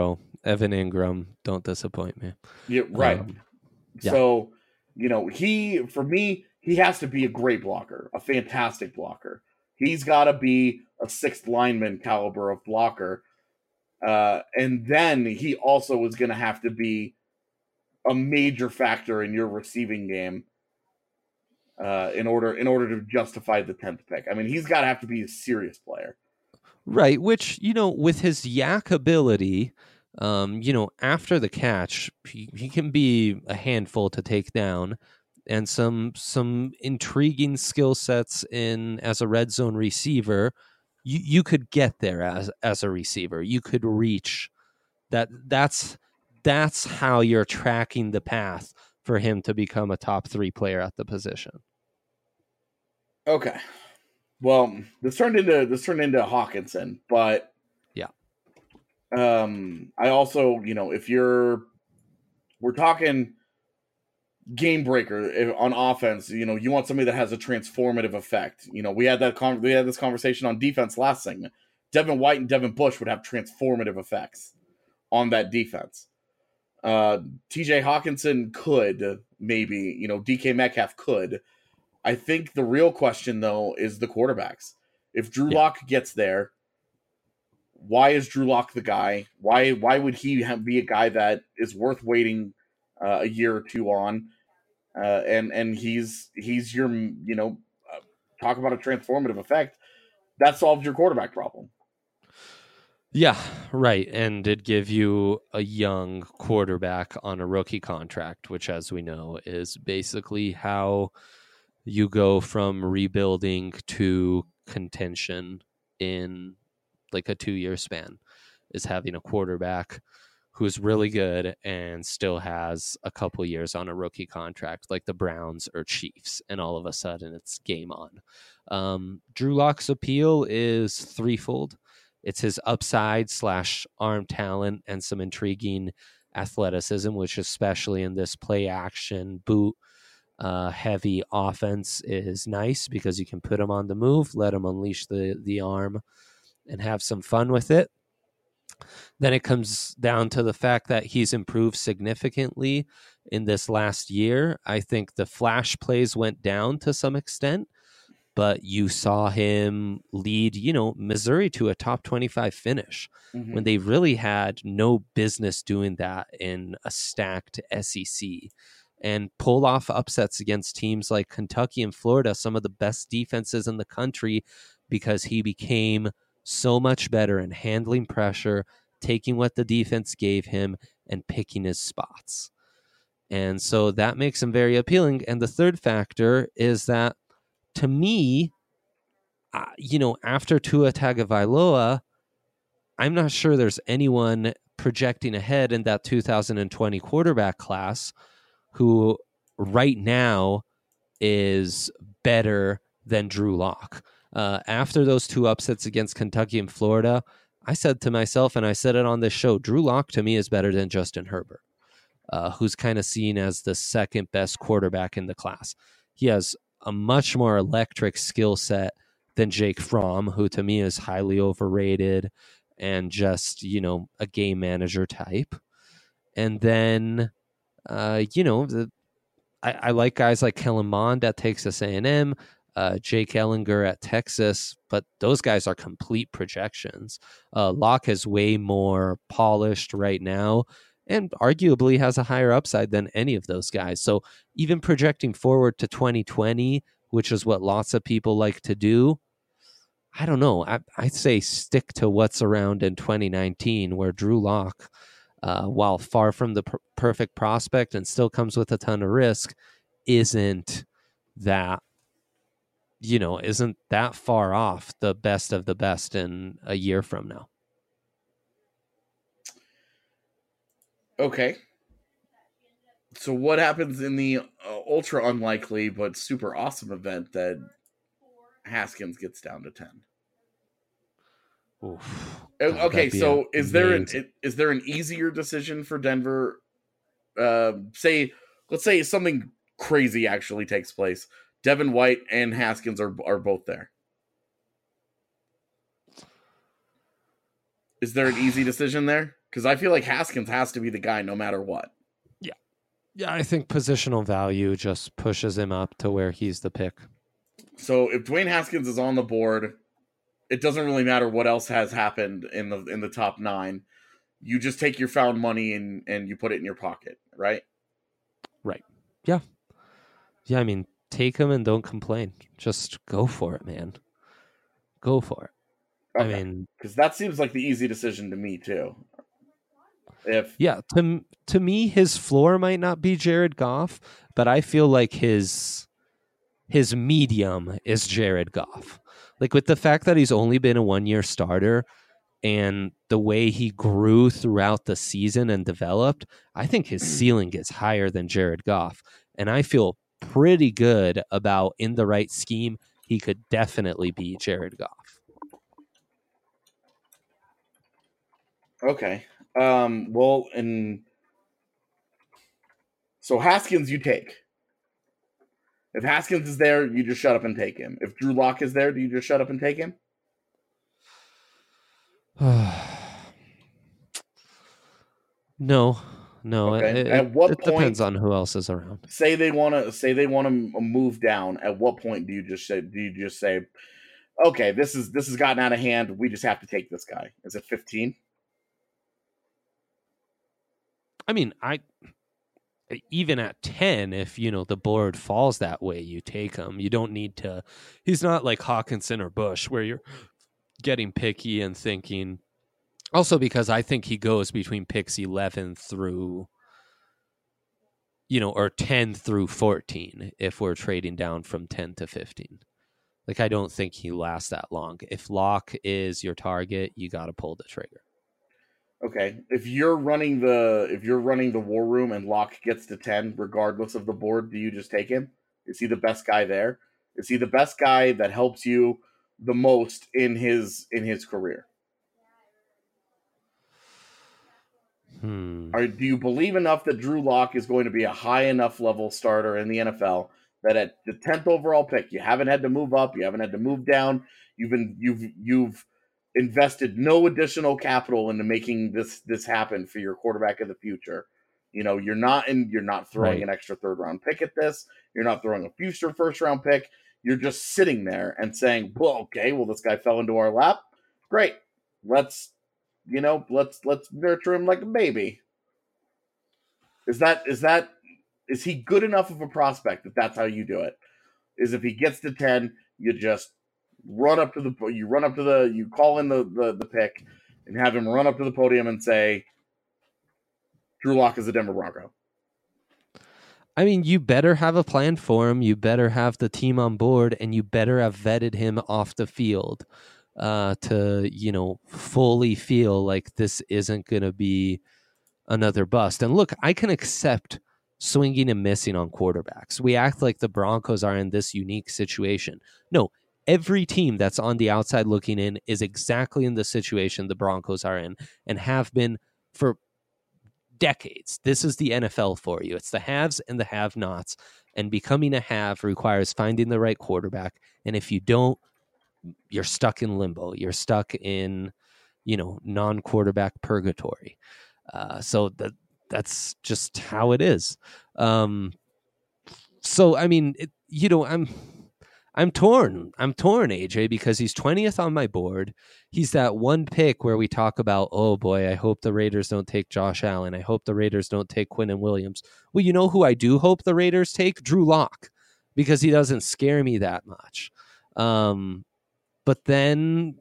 Evan Ingram, don't disappoint me. Yeah, right. Yeah. So, for me, he has to be a great blocker, a fantastic blocker. He's got to be a sixth lineman caliber of blocker. And then he also is going to have to be a major factor in your receiving game in order to justify the 10th pick. I mean, he's got to have to be a serious player. Right, which, with his yak ability, after the catch, he can be a handful to take down, and some intriguing skill sets as a red zone receiver. You could get there as a receiver. You could reach that. That's how you're tracking the path for him to become a top 3 player at the position. Okay. Well, this turned into Hawkinson, but yeah. I also, we're talking game breaker on offense, you want somebody that has a transformative effect. We had this conversation on defense last segment. Devin White and Devin Bush would have transformative effects on that defense. TJ Hawkinson could, maybe, DK Metcalf could. I think the real question, though, is the quarterbacks. If Drew Lock gets there, why is Drew Lock the guy? Why would he be a guy that is worth waiting a year or two on? And he's your, talk about a transformative effect. That solves your quarterback problem. Yeah, right. And it'd give you a young quarterback on a rookie contract, which, as we know, is basically how you go from rebuilding to contention in like a 2-year span, is having a quarterback who's really good and still has a couple years on a rookie contract, like the Browns or Chiefs, and all of a sudden it's game on. Drew Lock's appeal is threefold. It's his upside / arm talent and some intriguing athleticism, which especially in this play action boot heavy offense is nice because you can put him on the move, let him unleash the arm and have some fun with it. Then it comes down to the fact that he's improved significantly in this last year. I think the flash plays went down to some extent, but you saw him lead, Missouri to a top 25 finish when they really had no business doing that in a stacked SEC, and pull off upsets against teams like Kentucky and Florida, some of the best defenses in the country, because he became so much better in handling pressure, taking what the defense gave him and picking his spots. And so that makes him very appealing. And the third factor is that, to me, after Tua Tagovailoa, I'm not sure there's anyone projecting ahead in that 2020 quarterback class who right now is better than Drew Lock. After those 2 upsets against Kentucky and Florida, I said to myself, and I said it on this show, Drew Lock to me is better than Justin Herbert, who's kind of seen as the second best quarterback in the class. He has a much more electric skill set than Jake Fromm, who to me is highly overrated and just, a game manager type. And then, I like guys like Kellen Mond at Texas A&M, Jake Ellinger at Texas, but those guys are complete projections. Locke is way more polished right now and arguably has a higher upside than any of those guys. So even projecting forward to 2020, which is what lots of people like to do, I don't know. I'd say stick to what's around in 2019, where Drew Lock, while far from the perfect prospect and still comes with a ton of risk, isn't that far off the best of the best in a year from now. Okay. So what happens in the ultra unlikely but super awesome event that Haskins gets down to 10? Oof. Okay, so is there an easier decision for Denver? Let's say something crazy actually takes place. Devin White and Haskins are both there. Is there an easy decision there? Because I feel like Haskins has to be the guy no matter what. Yeah, I think positional value just pushes him up to where he's the pick. So if Dwayne Haskins is on the board, it doesn't really matter what else has happened in the top 9. You just take your found money and you put it in your pocket, right? Right. Yeah. Yeah, I mean, take him and don't complain. Just go for it, man. Go for it. Okay. I mean, because that seems like the easy decision to me too. To me, his floor might not be Jared Goff, but I feel like his medium is Jared Goff. Like with the fact that he's only been a 1-year starter and the way he grew throughout the season and developed, I think his ceiling is higher than Jared Goff. And I feel pretty good about in the right scheme, he could definitely be Jared Goff. Okay. So Haskins you take. If Haskins is there, you just shut up and take him. If Drew Lock is there, do you just shut up and take him? No. Okay. At what it point, depends on who else is around. Say they want to move down. At what point do you just say, okay, this has gotten out of hand. We just have to take this guy. Is it 15? I mean, even at 10, if the board falls that way, you take him. You don't need to. He's not like Hawkinson or Bush where you're getting picky and thinking. Also, because I think he goes between picks 11 through, or 10 through 14 if we're trading down from 10 to 15. Like, I don't think he lasts that long. If Locke is your target, you got to pull the trigger. Okay. If you're running the war room and Locke gets to 10, regardless of the board, do you just take him? Is he the best guy there? Is he the best guy that helps you the most in his career? Do you believe enough that Drew Lock is going to be a high enough level starter in the NFL that at the 10th overall pick, you haven't had to move up, you haven't had to move down, you've invested no additional capital into making this happen for your quarterback of the future. You're not throwing an extra 3rd round pick at this. You're not throwing a future 1st round pick. You're just sitting there and saying, well, okay, this guy fell into our lap. Great. Let's nurture him like a baby. Is he good enough of a prospect that's how you do it? Is if he gets to 10, you just you call in the pick and have him run up to the podium and say, Drew Lock is a Denver Bronco. I mean, you better have a plan for him. You better have the team on board, and you better have vetted him off the field to fully feel like this isn't going to be another bust. And look, I can accept swinging and missing on quarterbacks. We act like the Broncos are in this unique situation. No, every team that's on the outside looking in is exactly in the situation the Broncos are in and have been for decades. This is the NFL for you. It's the haves and the have-nots. And becoming a have requires finding the right quarterback. And if you don't, you're stuck in limbo. You're stuck in, non-quarterback purgatory. So that's just how it is. So, I mean, I'm torn. I'm torn, AJ, because he's 20th on my board. He's that one pick where we talk about, oh boy, I hope the Raiders don't take Josh Allen. I hope the Raiders don't take Quinnen Williams. Well, you know who I do hope the Raiders take? Drew Lock, because he doesn't scare me that much. But then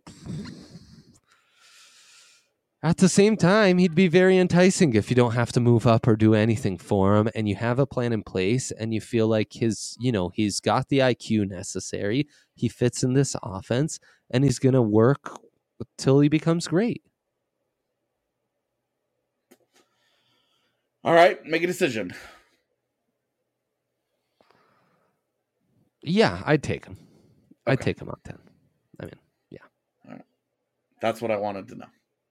at the same time, he'd be very enticing if you don't have to move up or do anything for him and you have a plan in place and you feel like he's got the IQ necessary. He fits in this offense and he's going to work till he becomes great. All right, make a decision. Yeah, I'd take him. Okay. I'd take him on 10. I mean, yeah. All right. That's what I wanted to know.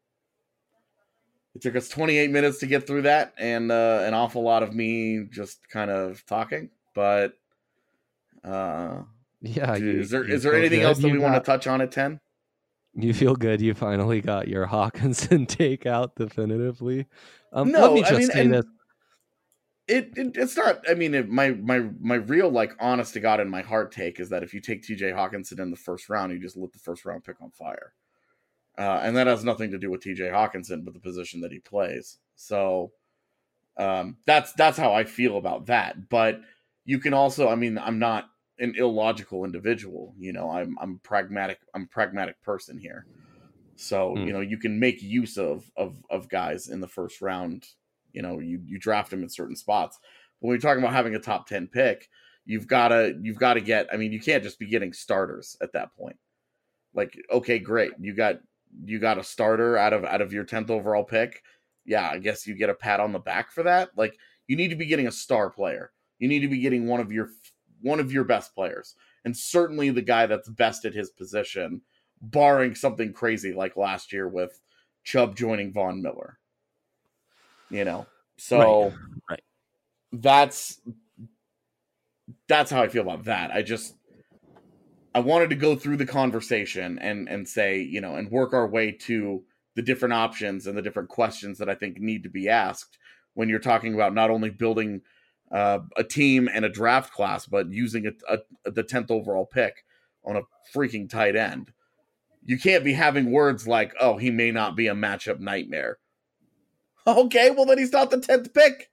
It took us 28 minutes to get through that, and an awful lot of me just kind of talking. But yeah, is there anything else that we want to touch on at 10? You feel good you finally got your Hawkinson take out definitively. Let No, me I just mean, say and this. it's not. I mean, my real, like, honest to God in my heart take is that if you take TJ Hawkinson in the first round, you just lit the first round pick on fire. And that has nothing to do with TJ Hawkinson, but the position that he plays. So that's how I feel about that. But you can also, I mean, I'm not an illogical individual. You know, I'm pragmatic. I'm a pragmatic person here. So you know, you can make use of guys in the first round. You know, you draft them in certain spots. But when you're talking about having a top 10 pick, you've got to get. I mean, you can't just be getting starters at that point. Like, okay, great, you got a starter out of your 10th overall pick. Yeah, I guess you get a pat on the back for that. Like, you need to be getting a star player. You need to be getting one of your best players, and certainly the guy that's best at his position, barring something crazy like last year with Chubb joining Von Miller. You know, so right. That's how I feel about that. I wanted to go through the conversation and say, you know, and work our way to the different options and the different questions that I think need to be asked when you're talking about not only building a team and a draft class, but using the 10th overall pick on a freaking tight end. You can't be having words like, oh, he may not be a matchup nightmare. Okay, well then he's not the 10th pick.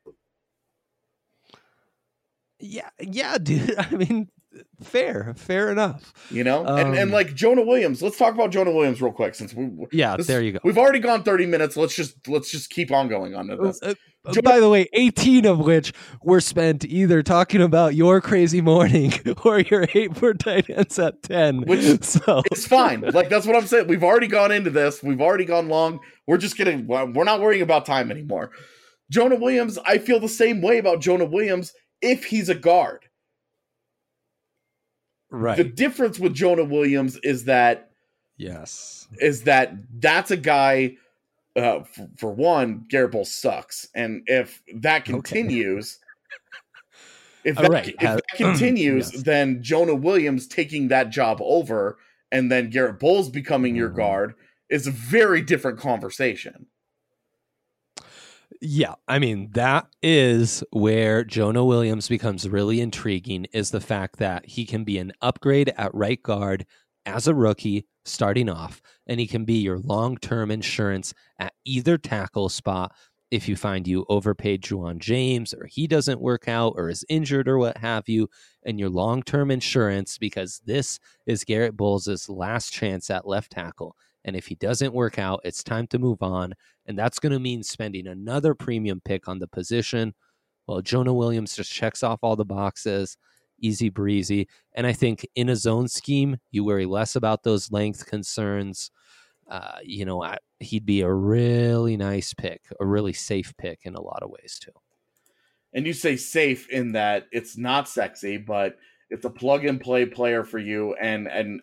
Yeah, dude. I mean, fair enough. You know, and like Jonah Williams. Let's talk about Jonah Williams real quick, since there you go. We've already gone 30 minutes. Let's just keep on going on to this. By the way, 18 of which were spent either talking about your crazy morning or your hate for tight ends at 10. Which so it's fine. Like, that's what I'm saying. We've already gone into this. We've already gone long. We're not worrying about time anymore. Jonah Williams, I feel the same way about Jonah Williams if he's a guard. Right. The difference with Jonah Williams is that that's a guy. For one, Garrett Bowles sucks, and if that continues, if that continues, yes. Then Jonah Williams taking that job over, and then Garrett Bowles becoming your guard is a very different conversation. Yeah, I mean, that is where Jonah Williams becomes really intriguing, is the fact that he can be an upgrade at right guard as a rookie starting off, and he can be your long-term insurance at either tackle spot if you find you overpaid Juwan James, or he doesn't work out, or is injured, or what have you, and your long-term insurance, because this is Garrett Bowles' last chance at left tackle. And if he doesn't work out, it's time to move on. And that's going to mean spending another premium pick on the position. Well, Jonah Williams just checks off all the boxes. Easy breezy. And I think in a zone scheme, you worry less about those length concerns. He'd be a really nice pick, a really safe pick in a lot of ways too. And you say safe in that it's not sexy, but it's a plug-and-play player for you. And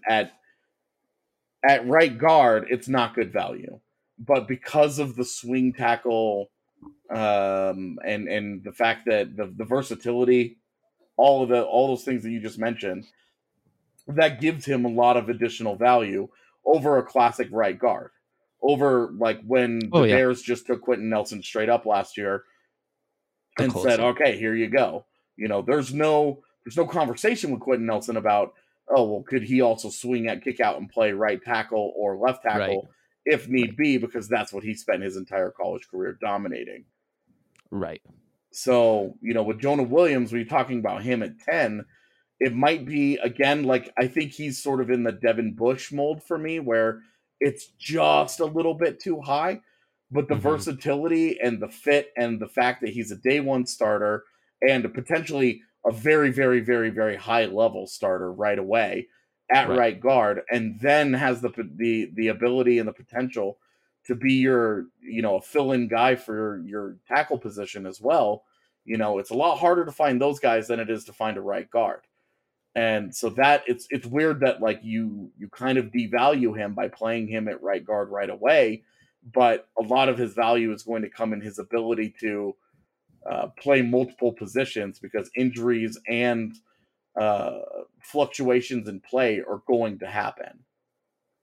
at right guard, it's not good value. But because of the swing tackle and the fact that the versatility, all those things that you just mentioned, that gives him a lot of additional value over a classic right guard. Over, like, when the Bears just took Quentin Nelson straight up last year and said, okay, here you go. You know, there's no conversation with Quentin Nelson about, oh, well, could he also swing at kick out and play right tackle or left tackle if need be, because that's what he spent his entire college career dominating. Right. So, you know, with Jonah Williams, when you're talking about him at 10, it might be, again, like, I think he's sort of in the Devin Bush mold for me, where it's just a little bit too high, but the versatility and the fit and the fact that he's a day one starter and potentially a very, very, very, very high level starter right away at right guard, and then has the ability and the potential to be your, you know, a fill-in guy for your tackle position as well. You know, it's a lot harder to find those guys than it is to find a right guard. And so that it's weird that, like, you kind of devalue him by playing him at right guard right away, but a lot of his value is going to come in his ability to play multiple positions, because injuries and fluctuations in play are going to happen. Yeah,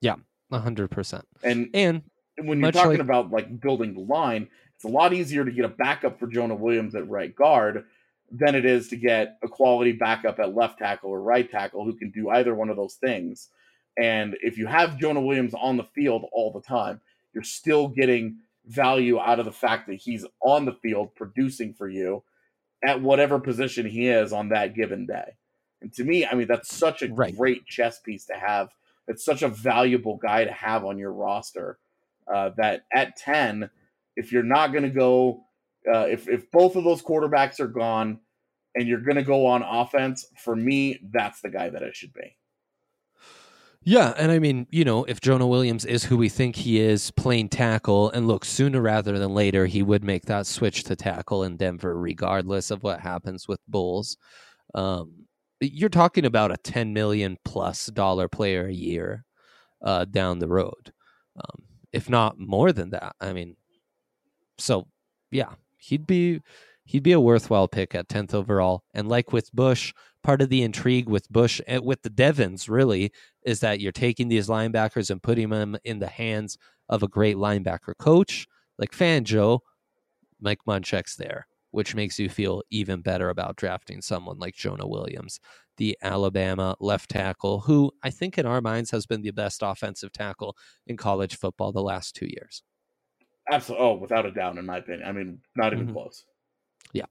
100%. And when you're much talking like- about like building the line, it's a lot easier to get a backup for Jonah Williams at right guard than it is to get a quality backup at left tackle or right tackle who can do either one of those things. And if you have Jonah Williams on the field all the time, you're still getting value out of the fact that he's on the field producing for you at whatever position he is on that given day. And to me, I mean, that's such a great chess piece to have. It's such a valuable guy to have on your roster that at 10, if you're not going to go, if both of those quarterbacks are gone and you're going to go on offense, for me, that's the guy that it should be. Yeah, and I mean, you know, if Jonah Williams is who we think he is, playing tackle, and look, sooner rather than later, he would make that switch to tackle in Denver, regardless of what happens with Bulls. You're talking about a $10 million plus player a year down the road, if not more than that. I mean, so yeah, he'd be a worthwhile pick at 10th overall. And like with Bush, part of the intrigue with Bush and with the Devons really is that you're taking these linebackers and putting them in the hands of a great linebacker coach like Fangio. Mike Munchak's there, which makes you feel even better about drafting someone like Jonah Williams, the Alabama left tackle, who I think in our minds has been the best offensive tackle in college football the last 2 years. Absolutely. Oh, without a doubt, in my opinion. I mean, not even close. Yeah.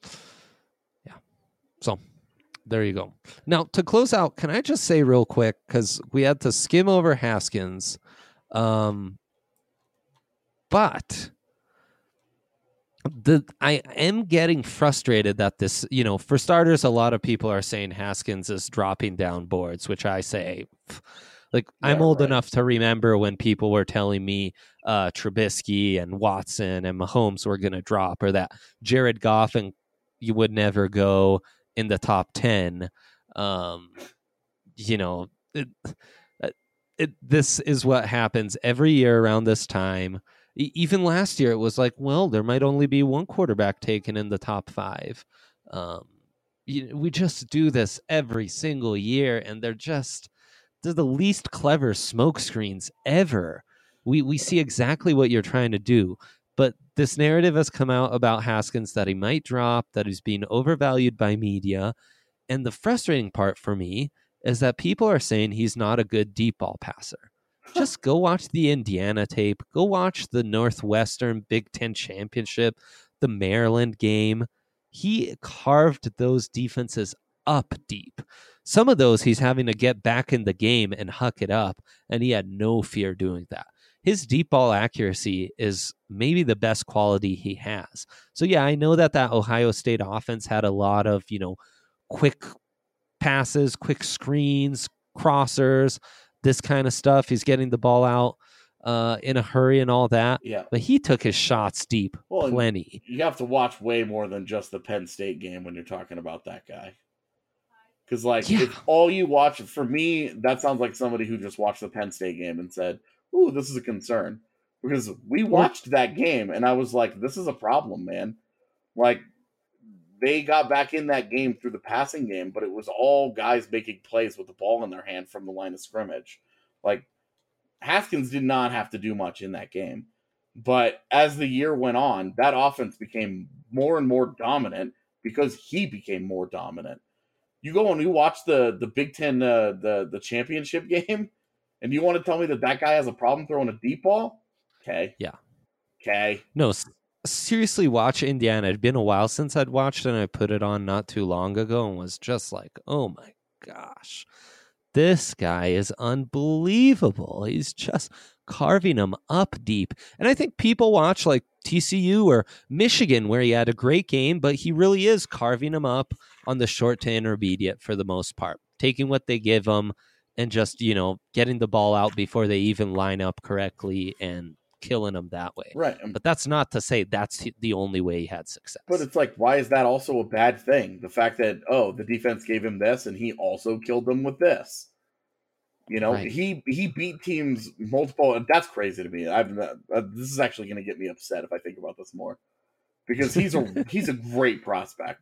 So there you go. Now, to close out, can I just say real quick, because we had to skim over Haskins, but I am getting frustrated that this, you know, for starters, a lot of people are saying Haskins is dropping down boards, which I say, like, yeah, I'm old enough to remember when people were telling me Trubisky and Watson and Mahomes were going to drop, or that Jared Goff and you would never go in the top 10. You know, this is what happens every year around this time. Even last year, it was like, well, there might only be one quarterback taken in the top 5. We just do this every single year, and they're the least clever smokescreens ever. We see exactly what you're trying to do, but this narrative has come out about Haskins that he might drop, that he's being overvalued by media, and the frustrating part for me is that people are saying he's not a good deep ball passer. Just go watch the Indiana tape. Go watch the Northwestern Big Ten Championship, the Maryland game. He carved those defenses up deep. Some of those he's having to get back in the game and huck it up, and he had no fear doing that. His deep ball accuracy is maybe the best quality he has. So, yeah, I know that Ohio State offense had a lot of, you know, quick passes, quick screens, crossers, this kind of stuff. He's getting the ball out in a hurry and all that. Yeah. But he took his shots deep, plenty. You have to watch way more than just the Penn State game when you're talking about that guy. Because, like, if all you watch, for me, that sounds like somebody who just watched the Penn State game and said, ooh, this is a concern. Because we watched that game, and I was like, this is a problem, man. Like, they got back in that game through the passing game, but it was all guys making plays with the ball in their hand from the line of scrimmage. Like, Haskins did not have to do much in that game. But as the year went on, that offense became more and more dominant because he became more dominant. You go and you watch the Big Ten, the championship game, and you want to tell me that guy has a problem throwing a deep ball? Okay. Yeah. Okay. No, seriously, watch Indiana. It'd been a while since I'd watched it, and I put it on not too long ago and was just like, oh my gosh, this guy is unbelievable. He's just carving them up deep. And I think people watch like TCU or Michigan where he had a great game, but he really is carving them up on the short to intermediate for the most part, taking what they give him and just, you know, getting the ball out before they even line up correctly and killing them that way. Right. But that's not to say that's the only way he had success. But it's like, why is that also a bad thing? The fact that, oh, the defense gave him this and he also killed them with this. You know, right. he beat teams multiple. That's crazy to me. This is actually going to get me upset if I think about this more, because he's a great prospect,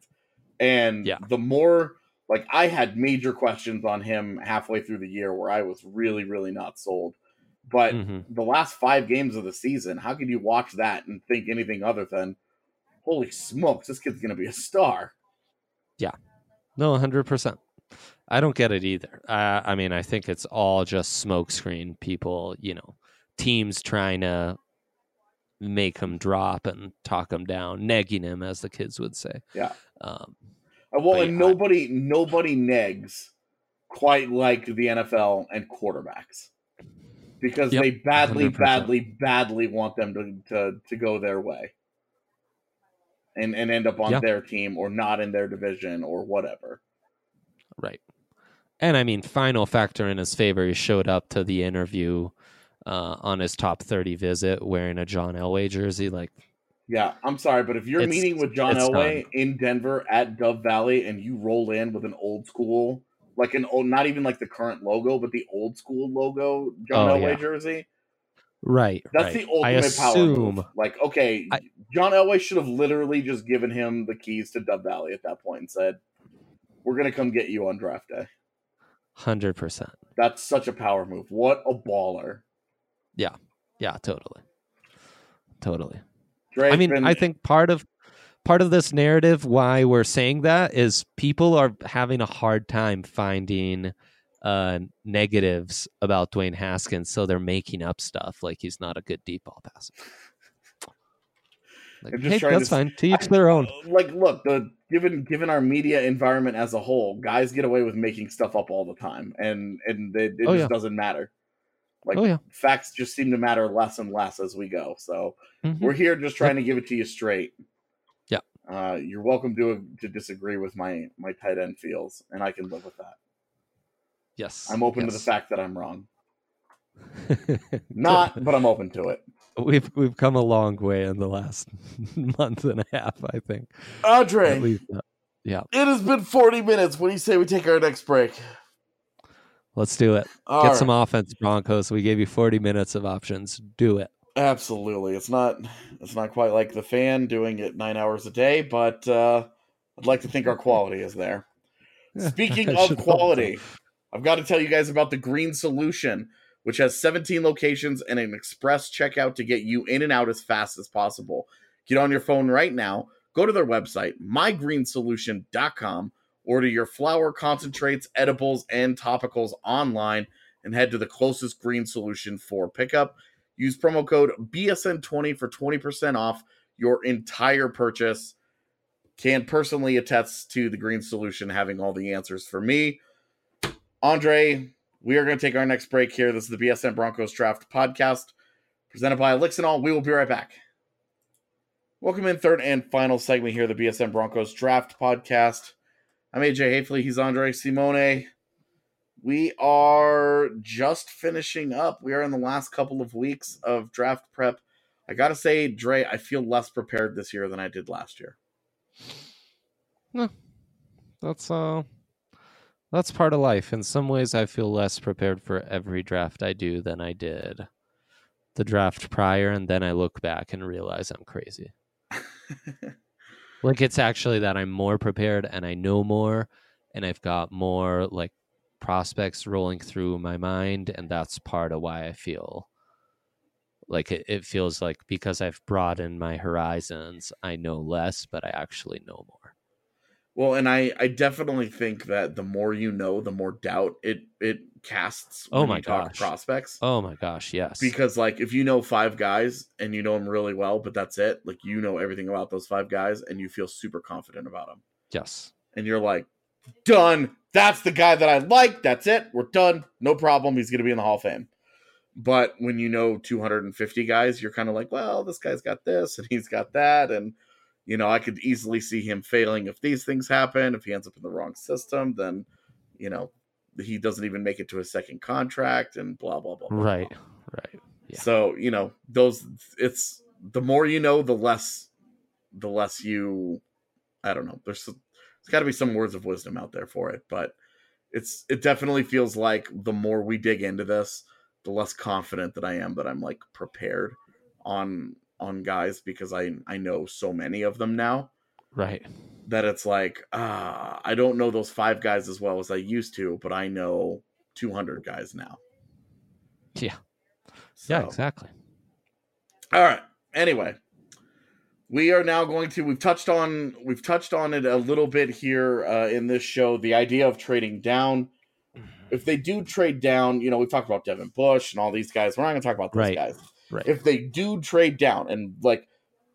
and the more, like, I had major questions on him halfway through the year where I was really, really not sold, But Mm-hmm. the last 5 games of the season, how can you watch that and think anything other than, holy smokes, this kid's going to be a star? No, 100%. I don't get it either. I mean, I think it's all just smokescreen people, teams trying to make him drop and talk him down, negging him, as the kids would say. Yeah. Um, Well, but and yeah, nobody negs quite like the NFL and quarterbacks, because Yep, they badly, 100%. badly want them to go their way and end up on Yeah. their team or not in their division or whatever. Right. And I mean, final factor in his favor, he showed up to the interview on his top 30 visit wearing a John Elway jersey. Like, Yeah, I'm sorry, but if you're It's- meeting with John it's Elway done. in Denver at Dove Valley and you roll in with an old school, like an old, not even like the current logo, but the old school logo John Oh, Elway yeah. jersey, right. that's right. the ultimate power assume, move. Like, okay, John Elway should have literally just given him the keys to Dove Valley at that point and said, "We're gonna come get you on draft day." 100%. That's such a power move. What a baller! Yeah, totally. Dre's I mean, been- I think part of this narrative, why we're saying that, is people are having a hard time finding negatives about Dwayne Haskins, so they're making up stuff like he's not a good deep ball passer. Like, I'm just hey, trying that's to- fine. To each their own. Like, look, given our media environment as a whole, guys get away with making stuff up all the time, and it Oh, just yeah. doesn't matter. Like, Oh, yeah. facts just seem to matter less and less as we go. So Mhm. we're here just trying to give it to you straight. Yeah. You're welcome to disagree with my tight end feels, and I can live with that. Yes. I'm open to the yes. fact that I'm wrong. Not, but I'm open to it. We've come a long way in the last month and a half, I think. Andre, At least, yeah. it has been 40 minutes. What do you say we take our next break? Let's do it. All Get right. some offense, Broncos. We gave you 40 minutes of options. Do it. Absolutely. It's not quite like the Fan doing it 9 hours a day, but I'd like to think our quality is there. Speaking I of should hope quality, I've got to tell you guys about the Green Solution, which has 17 locations and an express checkout to get you in and out as fast as possible. Get on your phone right now, go to their website, mygreensolution.com, order your flower, concentrates, edibles, and topicals online, and head to the closest Green Solution for pickup. Use promo code BSN20 for 20% off your entire purchase. Can personally attest to the Green Solution having all the answers for me. Andre, we are going to take our next break here. This is the BSN Broncos Draft Podcast, presented by Elixinol. We will be right back. Welcome in, third and final segment here, the BSN Broncos Draft Podcast. I'm AJ Hafley. He's Andre Simone. We are just finishing up. We are in the last couple of weeks of draft prep. I got to say, Dre, I feel less prepared this year than I did last year. That's part of life. In some ways, I feel less prepared for every draft I do than I did the draft prior, and then I look back and realize I'm crazy. Like, it's actually that I'm more prepared and I know more, and I've got more like prospects rolling through my mind, and that's part of why I feel like it feels like, because I've broadened my horizons, I know less, but I actually know more. Well, and I definitely think that the more you know, the more doubt it casts when you talk to prospects. Oh my gosh, yes. Because, like, if you know 5 guys and you know them really well, but that's it, like, you know everything about those 5 guys and you feel super confident about them. Yes. And you're like, done. That's the guy that I like. That's it. We're done. No problem. He's going to be in the Hall of Fame. But when you know 250 guys, you're kind of like, well, this guy's got this and he's got that. And, you know, I could easily see him failing if these things happen. If he ends up in the wrong system, then, you know, he doesn't even make it to his second contract and blah, blah, blah. Blah, Right. blah. Right. Yeah. So, you know, it's the more you know, the less you, I don't know. There's got to be some words of wisdom out there for it, but it definitely feels like the more we dig into this, the less confident that I am that I'm like prepared on guys, because I know so many of them now. Right. That it's like, I don't know those 5 guys as well as I used to, but I know 200 guys now. Yeah. Yeah, exactly. All right. Anyway, we are now going to. We've touched on it a little bit here in this show. The idea of trading down. If they do trade down, we talked about Devin Bush and all these guys. We're not going to talk about those guys. Right. If they do trade down, and like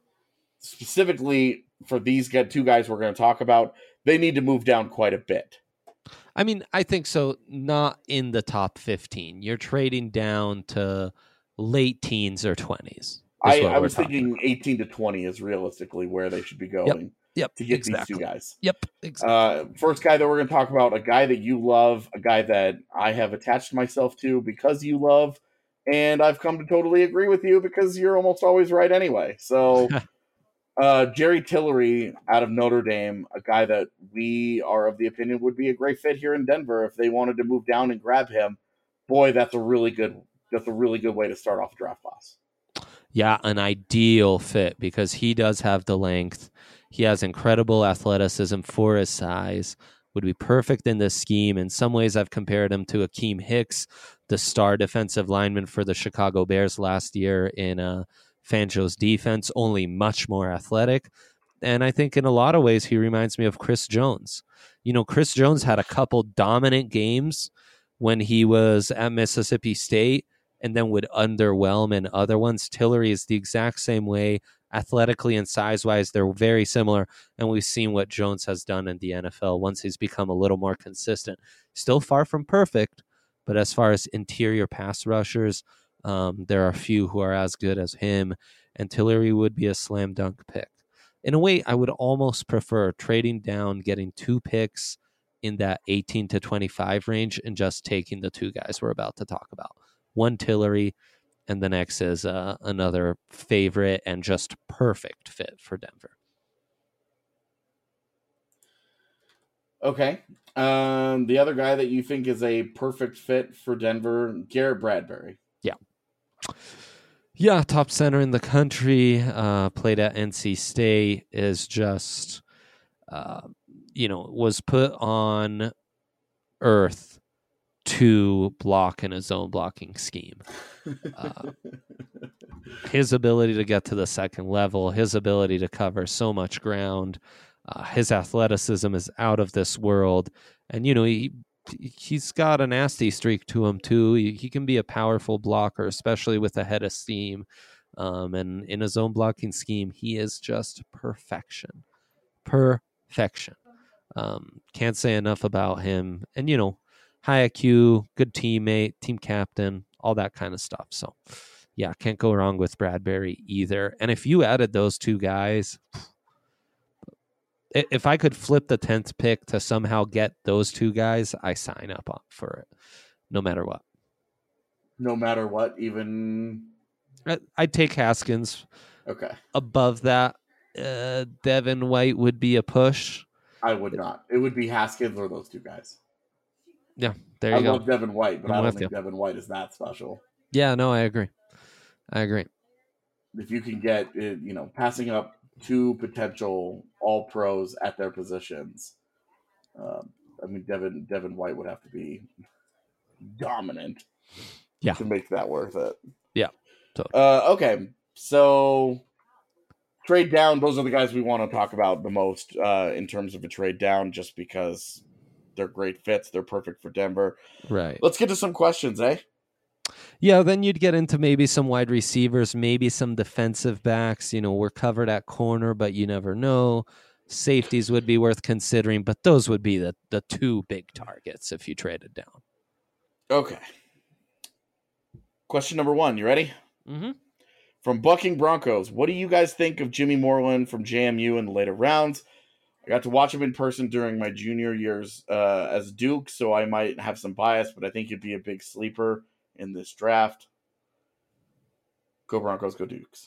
specifically for these two guys we're going to talk about, they need to move down quite a bit. I mean, I think so. Not in the top 15. You're trading down to late teens or 20s. I was thinking 18 to 20 is realistically where they should be going. Yep, to get these two guys. Yep, exactly. First guy that we're going to talk about, a guy that you love, a guy that I have attached myself to because you love, and I've come to totally agree with you because you're almost always right anyway. So, Jerry Tillery out of Notre Dame, a guy that we are of the opinion would be a great fit here in Denver if they wanted to move down and grab him. Boy, that's a really good way to start off draft class. Yeah, an ideal fit because he does have the length. He has incredible athleticism for his size, would be perfect in this scheme. In some ways, I've compared him to Akeem Hicks, the star defensive lineman for the Chicago Bears last year in Fangio's defense, only much more athletic. And I think in a lot of ways, he reminds me of Chris Jones. Chris Jones had a couple dominant games when he was at Mississippi State and then would underwhelm in other ones. Tillery is the exact same way. Athletically and size-wise, they're very similar, and we've seen what Jones has done in the NFL once he's become a little more consistent. Still far from perfect, but as far as interior pass rushers, there are a few who are as good as him, and Tillery would be a slam dunk pick. In a way, I would almost prefer trading down, getting 2 picks in that 18 to 25 range, and just taking the 2 guys we're about to talk about. One Tillery, and the next is another favorite and just perfect fit for Denver. Okay. The other guy that you think is a perfect fit for Denver, Garrett Bradbury. Yeah, top center in the country, played at NC State, is just, was put on earth to block in a zone blocking scheme. His ability to get to the second level, his ability to cover so much ground, his athleticism is out of this world. And, he's got a nasty streak to him, too. He can be a powerful blocker, especially with a head of steam. And in a zone blocking scheme, he is just perfection. Perfection. Can't say enough about him. And, high IQ, good teammate, team captain, all that kind of stuff. So, yeah, can't go wrong with Bradbury either. And if you added those 2 guys, if I could flip the 10th pick to somehow get those 2 guys, I sign up for it, no matter what. No matter what, even... I'd take Haskins. Okay. Above that, Devin White would be a push. I would not. It would be Haskins or those 2 guys. Yeah, there you go. I love Devin White, but I'm I don't with think you. Devin White is that special. Yeah, no, I agree. If you can get, passing up 2 potential all-pros at their positions, Devin White would have to be dominant to make that worth it. Yeah. Totally. Okay, so trade down, those are the guys we want to talk about the most in terms of a trade down, just because they're great fits. They're perfect for Denver. Right. Let's get to some questions, eh? Yeah, then you'd get into maybe some wide receivers, maybe some defensive backs. We're covered at corner, but you never know. Safeties would be worth considering, but those would be the 2 big targets if you traded down. Okay. Question number 1. You ready? Mm-hmm. From Bucking Broncos, what do you guys think of Jimmy Moreland from JMU in the later rounds? I got to watch him in person during my junior years as Duke, so I might have some bias, but I think he'd be a big sleeper in this draft. Go Broncos, go Dukes.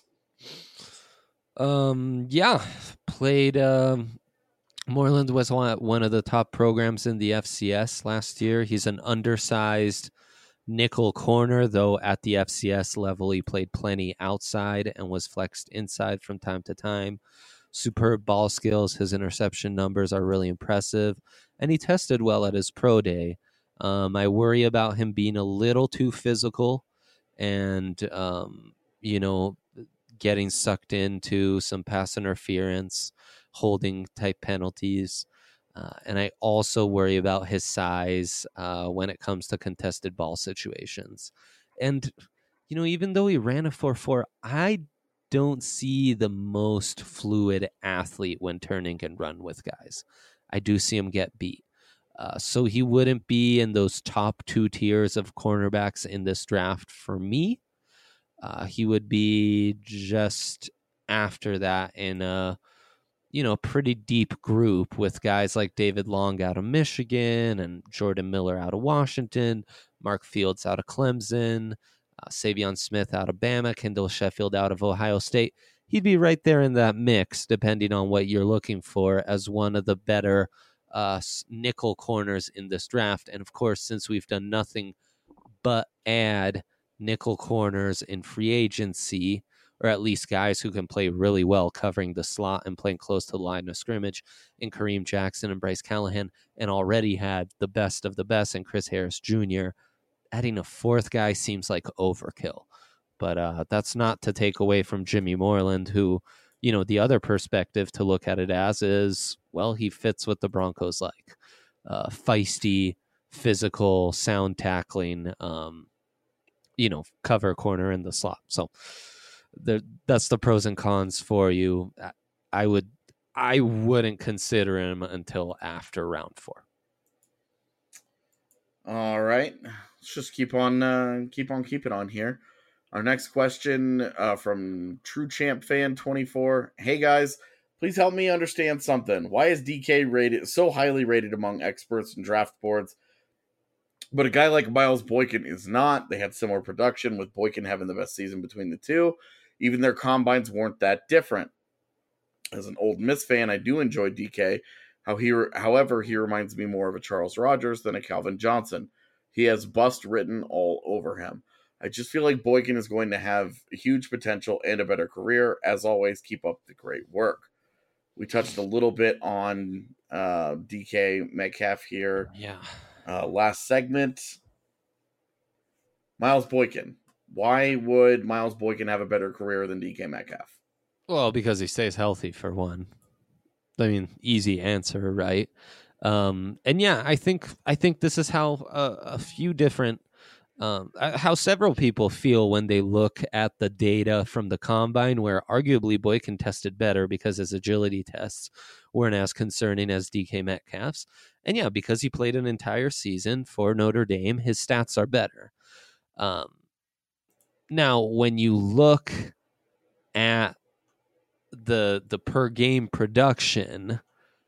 Yeah, played. Moreland was one of the top programs in the FCS last year. He's an undersized nickel corner, though at the FCS level, he played plenty outside and was flexed inside from time to time. Superb ball skills. His interception numbers are really impressive, and he tested well at his pro day. I worry about him being a little too physical and, getting sucked into some pass interference, holding type penalties. And I also worry about his size when it comes to contested ball situations. And, even though he ran a 4.4, I don't see the most fluid athlete when turning and run with guys. I do see him get beat. So he wouldn't be in those top 2 tiers of cornerbacks in this draft for me. He would be just after that in a pretty deep group with guys like David Long out of Michigan and Jordan Miller out of Washington, Mark Fields out of Clemson, Savion Smith out of Bama, Kendall Sheffield out of Ohio State. He'd be right there in that mix, depending on what you're looking for, as one of the better nickel corners in this draft. And of course, since we've done nothing but add nickel corners in free agency, or at least guys who can play really well covering the slot and playing close to the line of scrimmage, in Kareem Jackson and Bryce Callahan, and already had the best of the best in Chris Harris Jr., adding a 4th guy seems like overkill. But that's not to take away from Jimmy Moreland, who, the other perspective to look at it as is, well, he fits what the Broncos like. Feisty, physical, sound tackling, cover corner in the slot. So that's the pros and cons for you. I wouldn't consider him until after round 4. All right, let's just keep on keeping on here. Our next question from True Champ Fan 24. Hey guys, please help me understand something. Why is DK so highly rated among experts and draft boards, but a guy like Miles Boykin is not? They had similar production, with Boykin having the best season between the two. Even their combines weren't that different. As an Ole Miss fan, I do enjoy DK. However, he reminds me more of a Charles Rogers than a Calvin Johnson. He has bust written all over him. I just feel like Boykin is going to have huge potential and a better career. As always, keep up the great work. We touched a little bit on DK Metcalf here. Yeah. Last segment. Miles Boykin. Why would Miles Boykin have a better career than DK Metcalf? Well, because he stays healthy, for one. I mean, easy answer, right? And yeah, I think this is how a few different, how several people feel when they look at the data from the combine, where arguably Boykin tested better because his agility tests weren't as concerning as DK Metcalf's. And yeah, because he played an entire season for Notre Dame, his stats are better. Now, when you look at the per game production,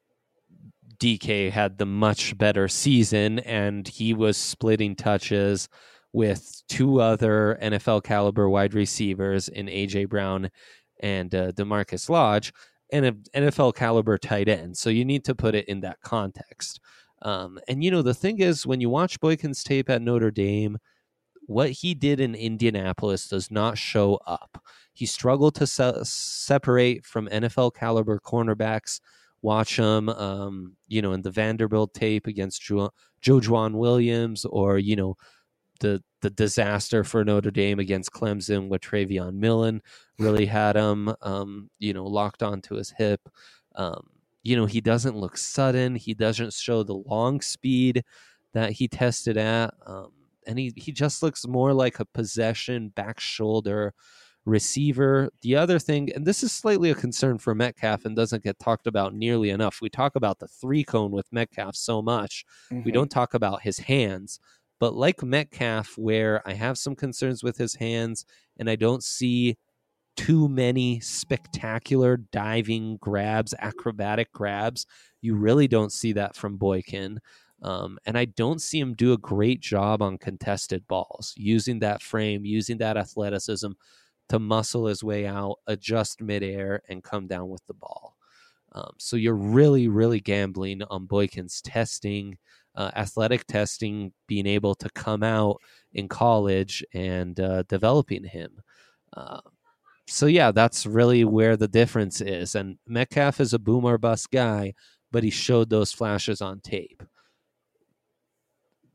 DK had the much better season, and he was splitting touches with 2 other NFL caliber wide receivers in AJ Brown and DeMarcus Lodge, and an NFL caliber tight end. So you need to put it in that context. And the thing is, when you watch Boykin's tape at Notre Dame, what he did in Indianapolis does not show up. He struggled to separate from NFL caliber cornerbacks. Watch him, in the Vanderbilt tape against Jojuan Williams, or, the disaster for Notre Dame against Clemson with Travion Millen really had him, locked onto his hip. He doesn't look sudden. He doesn't show the long speed that he tested at. And he just looks more like a possession, back shoulder receiver. The other thing, and this is slightly a concern for Metcalf and doesn't get talked about nearly enough. We talk about the 3-cone with Metcalf so much. Mm-hmm. We don't talk about his hands. But like Metcalf, where I have some concerns with his hands, and I don't see too many spectacular diving grabs, acrobatic grabs, you really don't see that from Boykin. And I don't see him do a great job on contested balls, using that frame, using that athleticism to muscle his way out, adjust midair, and come down with the ball. So you're really, really gambling on Boykin's testing, athletic testing, being able to come out in college and developing him. So yeah, that's really where the difference is. And Metcalf is a boom or bust guy, but he showed those flashes on tape.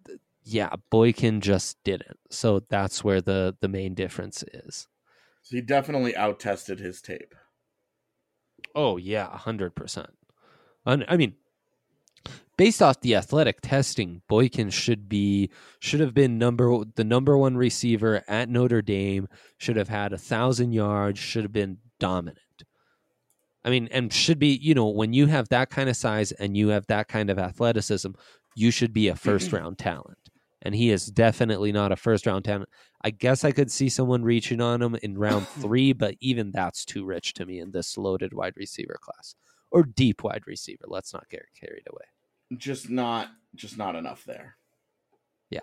Yeah, Boykin just didn't. So that's where the main difference is. So he definitely out-tested his tape. Oh, yeah, 100%. I mean, based off the athletic testing, Boykin should have been the number one receiver at Notre Dame, should have had 1,000 yards, should have been dominant. I mean, and should be, when you have that kind of size and you have that kind of athleticism, you should be a first-round talent. And he is definitely not a first-round talent. I guess I could see someone reaching on him in round 3, but even that's too rich to me in this loaded wide receiver class. Or deep wide receiver. Let's not get carried away. Just not enough there. Yeah.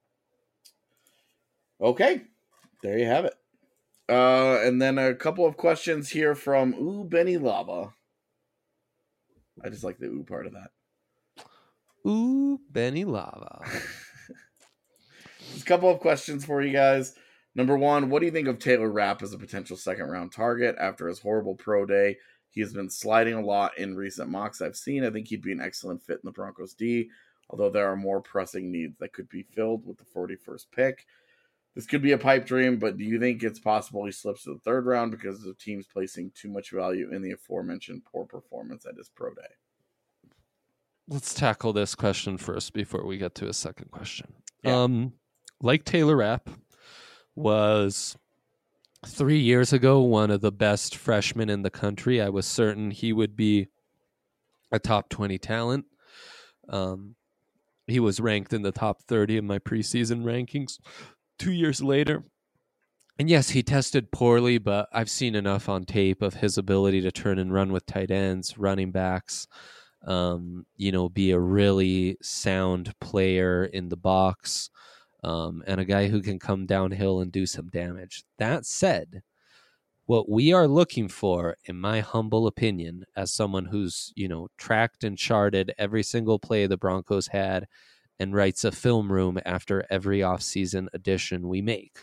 Okay. There you have it. And then a couple of questions here from Benny Lava. I just like the ooh part of that. Benny Lava. Just a couple of questions for you guys. Number one, what do you think of Taylor Rapp as a potential second-round target after his horrible pro day? He has been sliding a lot in recent mocks I've seen. I think he'd be an excellent fit in the Broncos D, although there are more pressing needs that could be filled with the 41st pick. This could be a pipe dream, but do you think it's possible he slips to the third round because of teams placing too much value in the aforementioned poor performance at his pro day? Let's tackle this question first before we get to a second question. Yeah. Like Taylor Rapp was 3 years ago one of the best freshmen in the country. I was certain he would be a top 20 talent. He was ranked in the top 30 in my preseason rankings 2 years later. And yes, he tested poorly, but I've seen enough on tape of his ability to turn and run with tight ends, running backs, be a really sound player in the box, and a guy who can come downhill and do some damage. That said, what we are looking for, in my humble opinion, as someone who's, tracked and charted every single play the Broncos had and writes a film room after every offseason addition we make,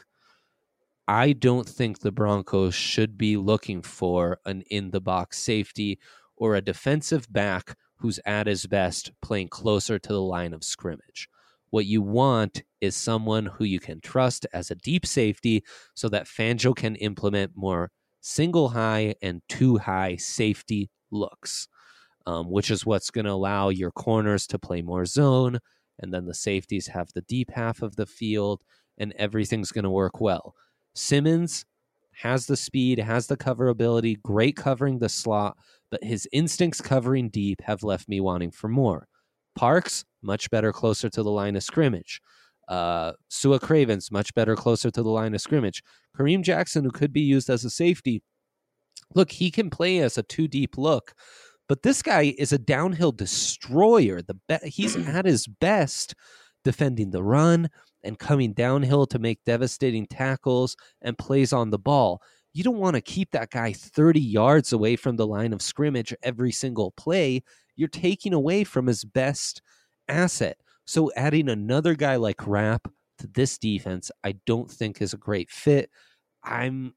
I don't think the Broncos should be looking for an in-the-box safety or a defensive back who's at his best playing closer to the line of scrimmage. What you want is someone who you can trust as a deep safety so that Fangio can implement more single high and two high safety looks, which is what's going to allow your corners to play more zone, and then the safeties have the deep half of the field, and everything's going to work well. Simmons has the speed, has the coverability, great covering the slot, but his instincts covering deep have left me wanting for more. Parks, much better closer to the line of scrimmage. Sua Cravens, much better closer to the line of scrimmage. Kareem Jackson, who could be used as a safety. Look, he can play as a two-deep look, but this guy is a downhill destroyer. He's at his best defending the run and coming downhill to make devastating tackles and plays on the ball. You don't want to keep that guy 30 yards away from the line of scrimmage every single play. You're taking away from his best asset. So adding another guy like Rapp to this defense, I don't think is a great fit. I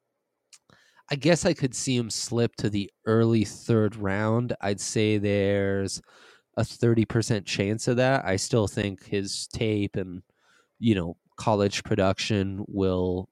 guess I could see him slip to the early third round. I'd say there's a 30% chance of that. I still think his tape and, college production will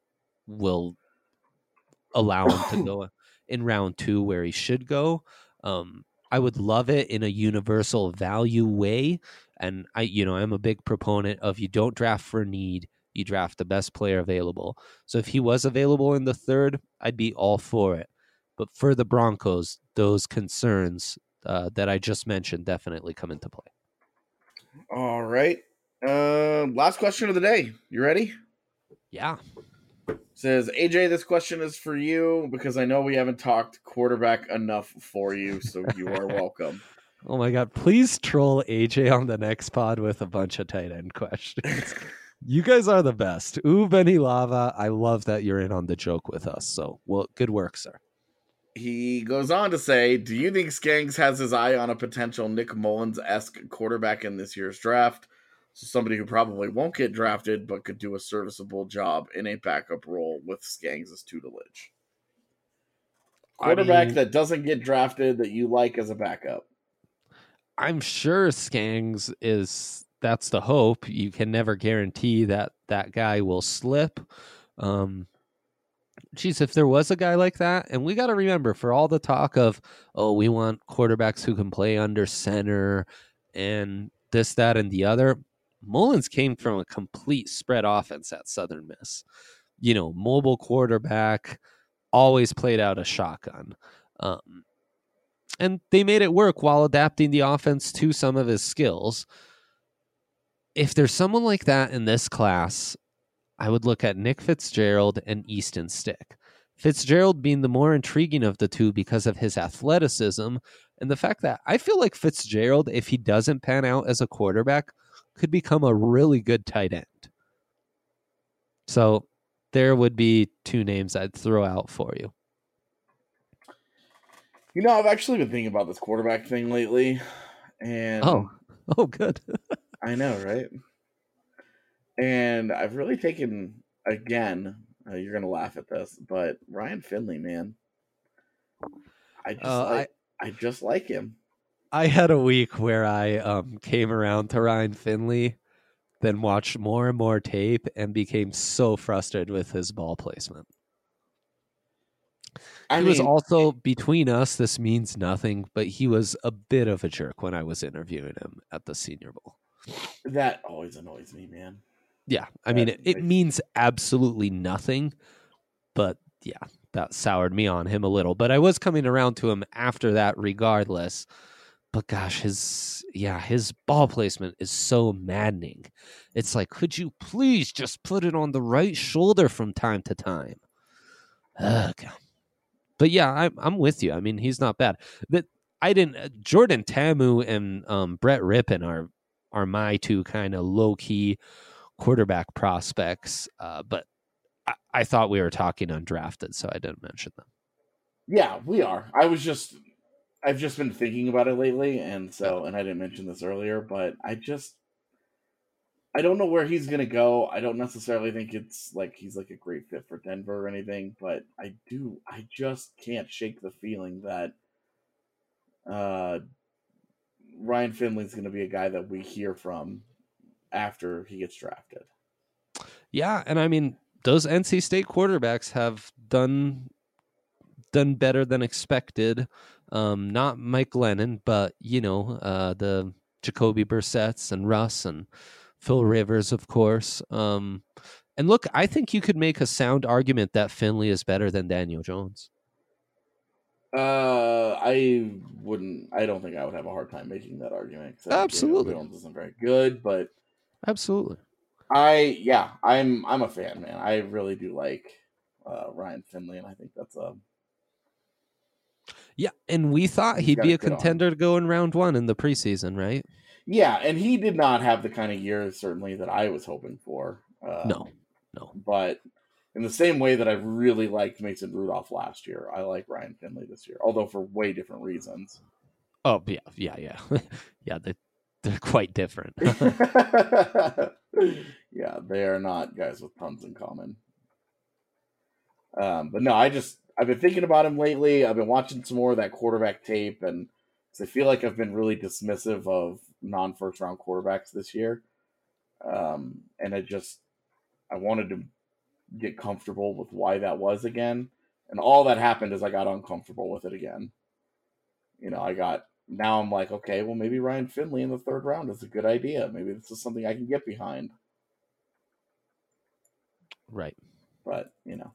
allow him to go in round 2 where he should go. I would love it in a universal value way. And I'm a big proponent of you don't draft for need, you draft the best player available. So if he was available in the third, I'd be all for it. But for the Broncos, those concerns that I just mentioned definitely come into play. All right. Last question of the day. You ready? Yeah. Says, AJ, this question is for you because I know we haven't talked quarterback enough for you, so you are welcome. Oh my God. Please troll AJ on the next pod with a bunch of tight end questions. You guys are the best. Benny Lava. I love that you're in on the joke with us. So, good work, sir. He goes on to say, do you think Skangs has his eye on a potential Nick Mullins-esque quarterback in this year's draft? So somebody who probably won't get drafted, but could do a serviceable job in a backup role with Skangs' tutelage. Quarterback that doesn't get drafted that you like as a backup. I'm sure Skangs is that's the hope. You can never guarantee that that guy will slip. If there was a guy like that, and we got to remember, for all the talk of, oh, we want quarterbacks who can play under center and this, that, and the other, Mullins came from a complete spread offense at Southern Miss. Mobile quarterback, always played out a shotgun. And they made it work while adapting the offense to some of his skills. If there's someone like that in this class, I would look at Nick Fitzgerald and Easton Stick. Fitzgerald being the more intriguing of the two because of his athleticism and the fact that I feel like Fitzgerald, if he doesn't pan out as a quarterback, could become a really good tight end. So there would be two names I'd throw out for you. I've actually been thinking about this quarterback thing lately. And oh, good. I know, right? And I've really taken, again, you're going to laugh at this, but Ryan Finley, man. I just like him. I had a week where I came around to Ryan Finley, then watched more and more tape and became so frustrated with his ball placement. He was also, between us, this means nothing, but he was a bit of a jerk when I was interviewing him at the Senior Bowl. That always annoys me, man. Yeah, I mean, it means absolutely nothing, but yeah, that soured me on him a little. But I was coming around to him after that regardless. But gosh, his ball placement is so maddening. It's like, could you please just put it on the right shoulder from time to time? Ugh. But yeah, I'm with you. I mean, he's not bad. Jordan Tamu and Brett Rippon are my two kind of low key quarterback prospects. But I thought we were talking undrafted, so I didn't mention them. Yeah, we are. I've just been thinking about it lately, and I didn't mention this earlier, but I don't know where he's gonna go. I don't necessarily think it's like he's like a great fit for Denver or anything, but I just can't shake the feeling that Ryan Finley's gonna be a guy that we hear from after he gets drafted. Yeah, and I mean, those NC State quarterbacks have done better than expected. Not Mike Lennon, but the Jacoby Brissett's and Russ and Phil Rivers, of course. And look, I think you could make a sound argument that Finley is better than Daniel Jones. I don't think I would have a hard time making that argument. Absolutely. Daniel Jones isn't very good, but absolutely. I'm a fan, man. I really do like Ryan Finley, and I think that's yeah, and we thought he'd be a contender to go in round one in the preseason, right? Yeah, and he did not have the kind of year, certainly, that I was hoping for. No. But in the same way that I really liked Mason Rudolph last year, I like Ryan Finley this year, although for way different reasons. Oh, yeah. Yeah, they're quite different. Yeah, they are not guys with tons in common. But no, I've been thinking about him lately. I've been watching some more of that quarterback tape, and I feel like I've been really dismissive of non-first round quarterbacks this year. And I wanted to get comfortable with why that was again. And all that happened is I got uncomfortable with it again. Now I'm like, okay, well, maybe Ryan Finley in the third round is a good idea. Maybe this is something I can get behind. Right. But,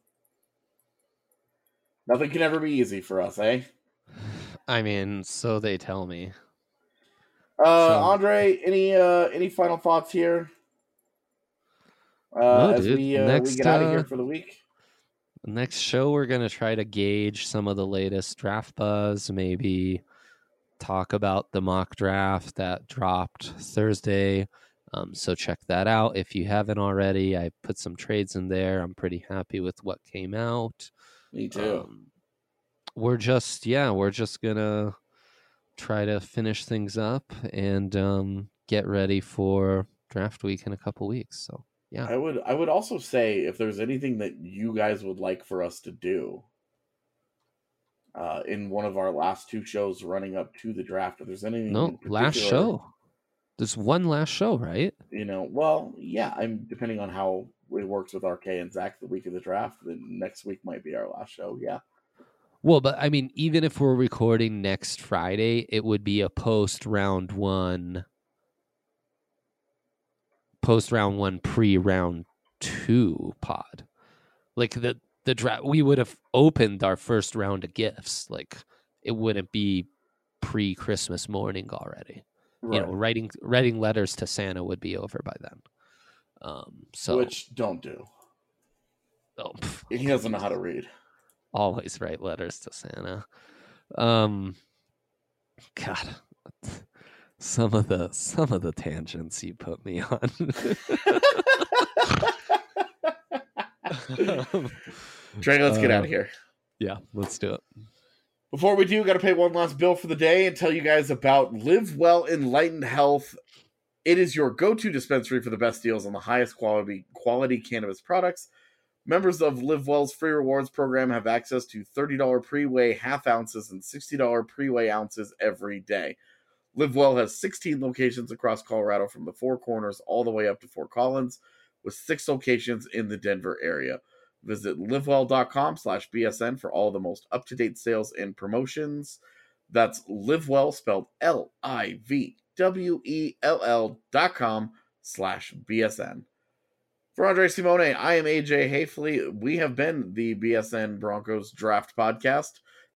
nothing can ever be easy for us, eh? I mean, so they tell me. Andre, any final thoughts here? No, as dude. we get out of here for the week? Next show, we're going to try to gauge some of the latest draft buzz, maybe talk about the mock draft that dropped Thursday. So check that out if you haven't already. I put some trades in there. I'm pretty happy with what came out. Me too. We're just gonna try to finish things up and get ready for draft week in a couple weeks. So yeah, I would also say if there's anything that you guys would like for us to do in one of our last two shows running up to the draft, if there's anything last show. There's one last show, right? You know, well, yeah, I'm depending on how it works with RK and Zach the week of the draft, then next week might be our last show, yeah. Well, but I mean, even if we're recording next Friday, it would be a post round one, pre-round 2 pod. Like the draft, we would have opened our first round of gifts. Like it wouldn't be pre-Christmas morning already. Right. You know, writing letters to Santa would be over by then. So which don't do. Oh, he doesn't know how to read. Always write letters to Santa. God, some of the tangents you put me on. Trey, let's get out of here. Yeah, let's do it. Before we do, got to pay one last bill for the day and tell you guys about Live Well Enlightened Health. It is your go-to dispensary for the best deals on the highest quality cannabis products. Members of Live Well's free rewards program have access to $30 pre-weigh half ounces and $60 pre-weigh ounces every day. Live Well has 16 locations across Colorado from the Four Corners all the way up to Fort Collins, with 6 locations in the Denver area. Visit livewell.com/BSN for all the most up-to-date sales and promotions. That's LiveWell, spelled LIVWELL.com/BSN. For Andre Simone, I am AJ Hayfley. We have been the BSN Broncos Draft Podcast.